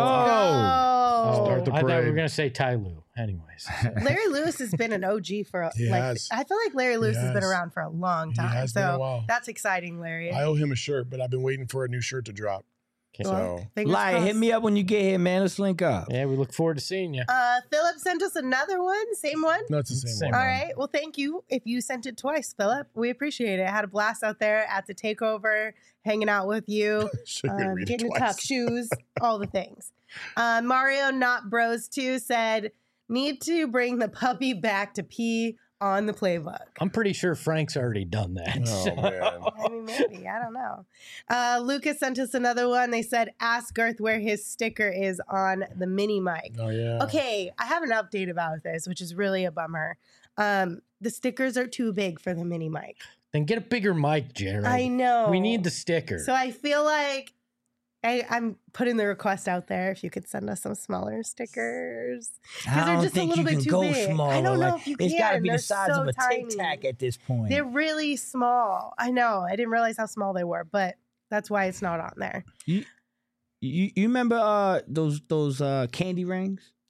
Oh. Start the I thought we were parade. going to say Ty Lue. Anyways. Larry Lewis has been an O G for a, He like has. I feel like Larry Lewis He has been has. around for a long He time. has been so a while. that's exciting, Larry. I owe him a shirt, but I've been waiting for a new shirt to drop. Okay. Well, So fingers Lie, hit crossed. me up when you get here, man. Let's link up. Yeah, we look forward to seeing you. Uh, Philip sent us another one. Same one. no, it's the same, Same one. All right. Well, thank you. If you sent it twice, Philip, we appreciate it. I had a blast out there at the takeover, hanging out with you, Sure, you're gonna um, read it getting to twice. tuck shoes, all the things. Uh, Mario Not Bros two said, need to bring the puppy back to pee on the playbook. I'm pretty sure Frank's already done that. Oh so- man. I mean, maybe. I don't know. Uh, Lucas sent us another one. They said, ask Girth where his sticker is on the mini mic. Oh yeah. Okay, I have an update about this, which is really a bummer. Um, the stickers are too big for the mini mic. Then get a bigger mic, Jared. I know. We need the sticker. So I feel like I, I'm putting the request out there if you could send us some smaller stickers. I they're don't just a think little you bit can too go big. smaller. I don't know Like, if you It's can. got to be They're the size so of a tiny. Tic Tac at this point. They're really small. I know. I didn't realize how small they were, but that's why it's not on there. You, you you remember uh those those uh candy rings?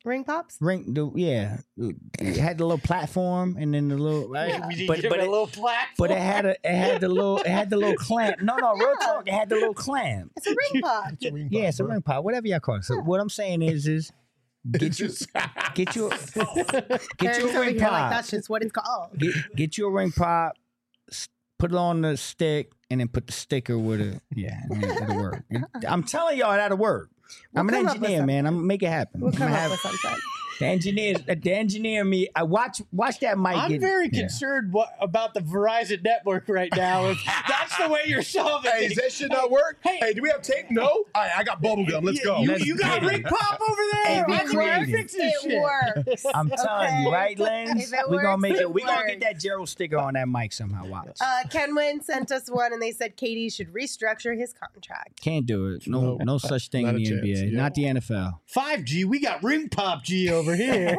Ring pops? Ring, the, yeah, it had the little platform and then the little right. Yeah. But but a it, little platform. but it had a it had the little it had the little clamp. No, no, real talk. It had the little clamp. It's a ring pop. It's a ring Yeah, pop, it's a bro. ring pop, whatever y'all call it. So what I'm saying is, is get you get you get you Eric's a over ring here like, pop. that's just what it's called. Get get you a ring pop. s- Put it on the stick and then put the sticker with it. Yeah, I mean, it'll work. I'm telling y'all that'll work. We'll I'm an come up with engineer, man. I'm gonna make it happen. We'll I'm come gonna up have with something. the engineer. The engineer me. I watch watch that mic. I'm get- very yeah. concerned what, about the Verizon network right now. If that's the way you're solving Hey, it. does that shit not work? Hey, Hey, do we have tape? No? All right, I got bubble gum. Let's go. You, Let's you got get it. ring pop over there. Hey, we I think we can creative. fix this It shit. works. I'm telling you, Okay? right, Lens? If it We're gonna works, make it it. We're gonna works. get that Gerald sticker on that mic somehow. Watch. Uh, Kenwin sent us one, and they said K D should restructure his contract. Can't do it. No, No. no such thing Not in a the N B A. chance, yeah. Not the N F L. five G, we got ring pop G over here.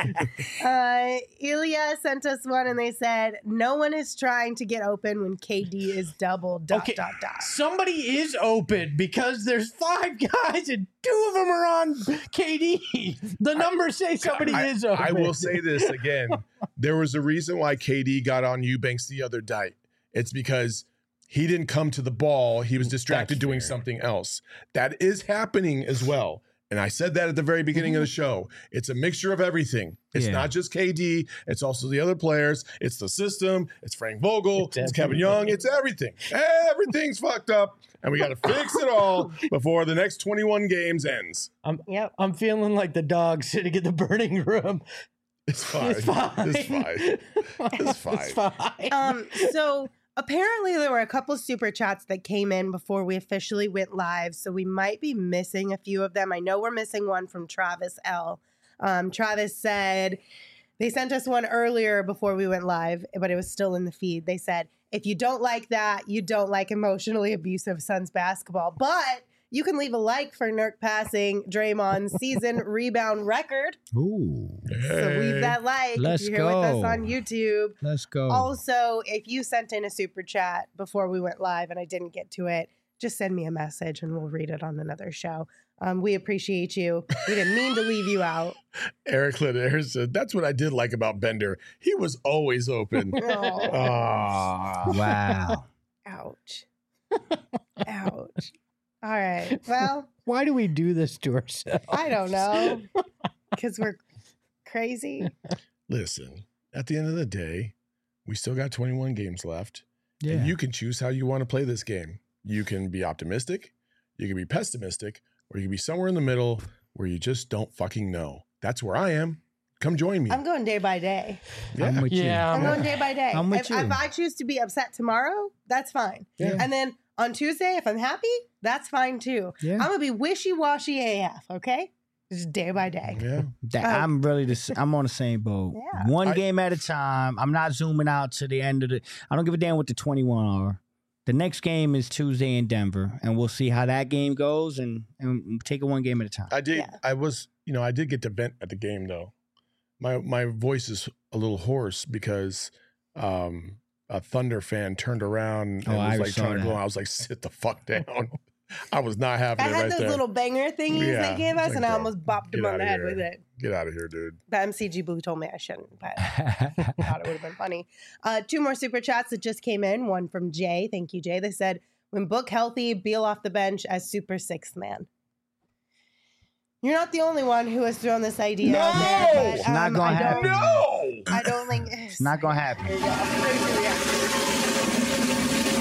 Uh, Ilya sent us one, and they said no one is trying to get open when K D is double. Dot Okay. dot dot. Somebody is open because there's five guys and two of them are on K D. The numbers say somebody I, is open. I will say this again. There was a reason why K D got on Eubanks the other night. It's because he didn't come to the ball. He was distracted That's doing fair. something else. That is happening as well. And I said that at the very beginning of the show. It's a mixture of everything. It's Yeah. not just K D. It's also the other players. It's the system. It's Frank Vogel. It's It's, Kevin everything. Young. It's everything. Everything's fucked up. And we got to fix it all before the next twenty-one games ends. I'm, Yep. I'm feeling like the dog sitting in the burning room. It's fine. It's fine. It's fine. It's fine. It's fine. Um, so apparently there were a couple super chats that came in before we officially went live, so we might be missing a few of them. I know we're missing one from Travis L. Um, Travis said they sent us one earlier before we went live, but it was still in the feed. They said, if you don't like that, you don't like emotionally abusive Suns basketball, but you can leave a like for Nurk passing Draymond's season rebound record. Ooh, So leave that like Let's if you're here with us go. on YouTube. let's go. Also, if you sent in a super chat before we went live and I didn't get to it, just send me a message and we'll read it on another show. Um, we appreciate you. We didn't mean to leave you out. Eric Litter said, that's what I did like about Bender. He was always open. Oh, Ah. Wow. ouch. Ouch. All right. Well, Why do we do this to ourselves? I don't know. Because we're crazy. Listen, at the end of the day, we still got twenty-one games left. Yeah. And you can choose how you want to play this game. You can be optimistic, you can be pessimistic, or you can be somewhere in the middle where you just don't fucking know. That's where I am. Come join me. I'm going day by day. I'm with Yeah, I'm I'm- going day by day. I'm with if, you. if I choose to be upset tomorrow, that's fine. Yeah. And then on Tuesday, if I'm happy, that's fine too. Yeah. I'm gonna be wishy washy A F. Okay, just day by day. yeah. That, Uh, I'm really the. s- I'm on the same boat. Yeah. One I- game at a time. I'm not zooming out to the end of the. I don't give a damn what the twenty-one are. The next game is Tuesday in Denver, and we'll see how that game goes, and and take it one game at a time. I did. Yeah. I was, you know, I did get to vent at the game though. My my voice is a little hoarse because um, a Thunder fan turned around and Oh, I was like saw trying to go. that. I was like, sit the fuck down. I was not having I it had right those there. little banger thingies Yeah, they gave it's us, like, and I bro, almost bopped get them on outta the head here. with it. Get out of here, dude. The M C G Blue told me I shouldn't, but I thought it would have been funny. Uh, two more super chats that just came in. One from Jay. Thank you, Jay. They said, when Book healthy, Beal off the bench as super sixth man. You're not the only one who has thrown this idea No! out there. But, It's not um, gonna I happen. don't, No. I don't think It's not gonna happen. Here you go. I'm ready to react.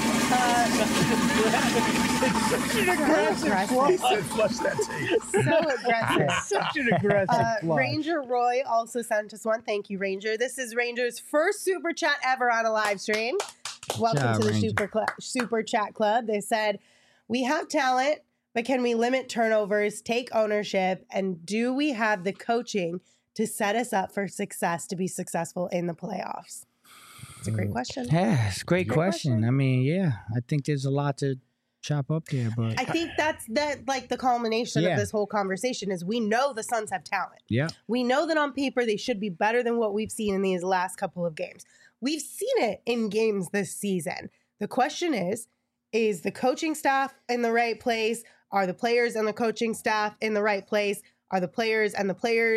Such an aggressive aggressive. plug. He said, flush that tape. So aggressive. Such an aggressive Uh, plug. Ranger Roy also sent us one. Thank you, Ranger. This is Ranger's first super chat ever on a live stream. Welcome job, to the Ranger. super cl- super chat club. They said, we have talent, but can we limit turnovers, take ownership, and do we have the coaching to set us up for success to be successful in the playoffs? It's a great question. Yeah, it's a great Great question. question. I mean, yeah, I think there's a lot to chop up there, but I think that's that like the culmination Yeah. of this whole conversation is we know the Suns have talent. yeah, We know that on paper they should be better than what we've seen in these last couple of games. We've seen it in games this season. The question is, is the coaching staff in the right place? Are the players and the coaching staff in the right place? Are the players and the players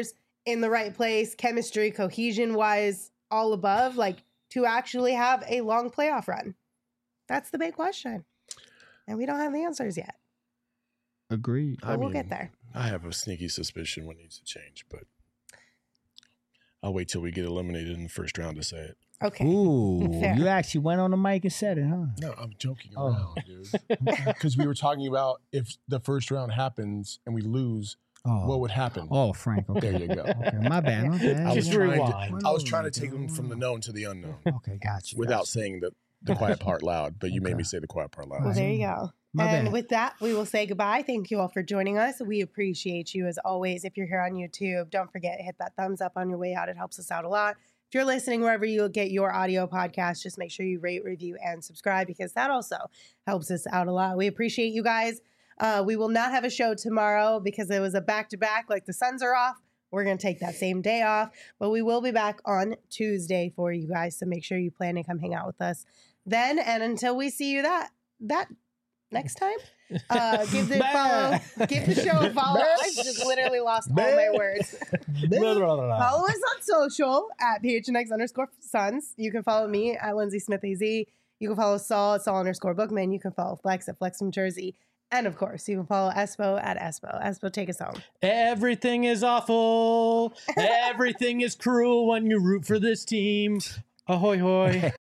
in the right place, chemistry, cohesion wise, all above, like to actually have a long playoff run? That's the big question. And we don't have the answers yet. Agreed. But we'll get there. I have a sneaky suspicion what needs to change, but I'll wait till we get eliminated in the first round to say it. Okay. Ooh, Fair. you actually went on the mic and said it, huh? No, I'm joking Oh. around, dude. Because we were talking about if the first round happens and we lose, Oh. what would happen? Oh, Frank. Okay. There you go. Okay, my bad. My bad. I was, Just trying rewind. to, I was trying to take them from the known to the unknown Okay, got you. without got you. saying the, the quiet part loud, but you made Okay. me say the quiet part loud. Well, there you go. My and bad. with that, we will say goodbye. Thank you all for joining us. We appreciate you as always. If you're here on YouTube, don't forget, hit that thumbs up on your way out. It helps us out a lot. If you're listening wherever you get your audio podcast, just make sure you rate, review, and subscribe because that also helps us out a lot. We appreciate you guys. Uh, we will not have a show tomorrow because it was a back-to-back, like the Suns are off. We're going to take that same day off, but we will be back on Tuesday for you guys. So make sure you plan to come hang out with us then. And until we see you that, that next time, uh, give the follow, give the show a follow. I just literally lost all my words. Blah, blah, blah. Follow us on social at P H N X underscore Suns. You can follow me at Lindsay Smith A Z. You can follow Saul at Saul underscore Bookman. You can follow Flex at Flex from Jersey. And of course, you can follow Espo at Espo. Espo, take us home. Everything is awful. Everything is cruel when you root for this team. Ahoy, hoy.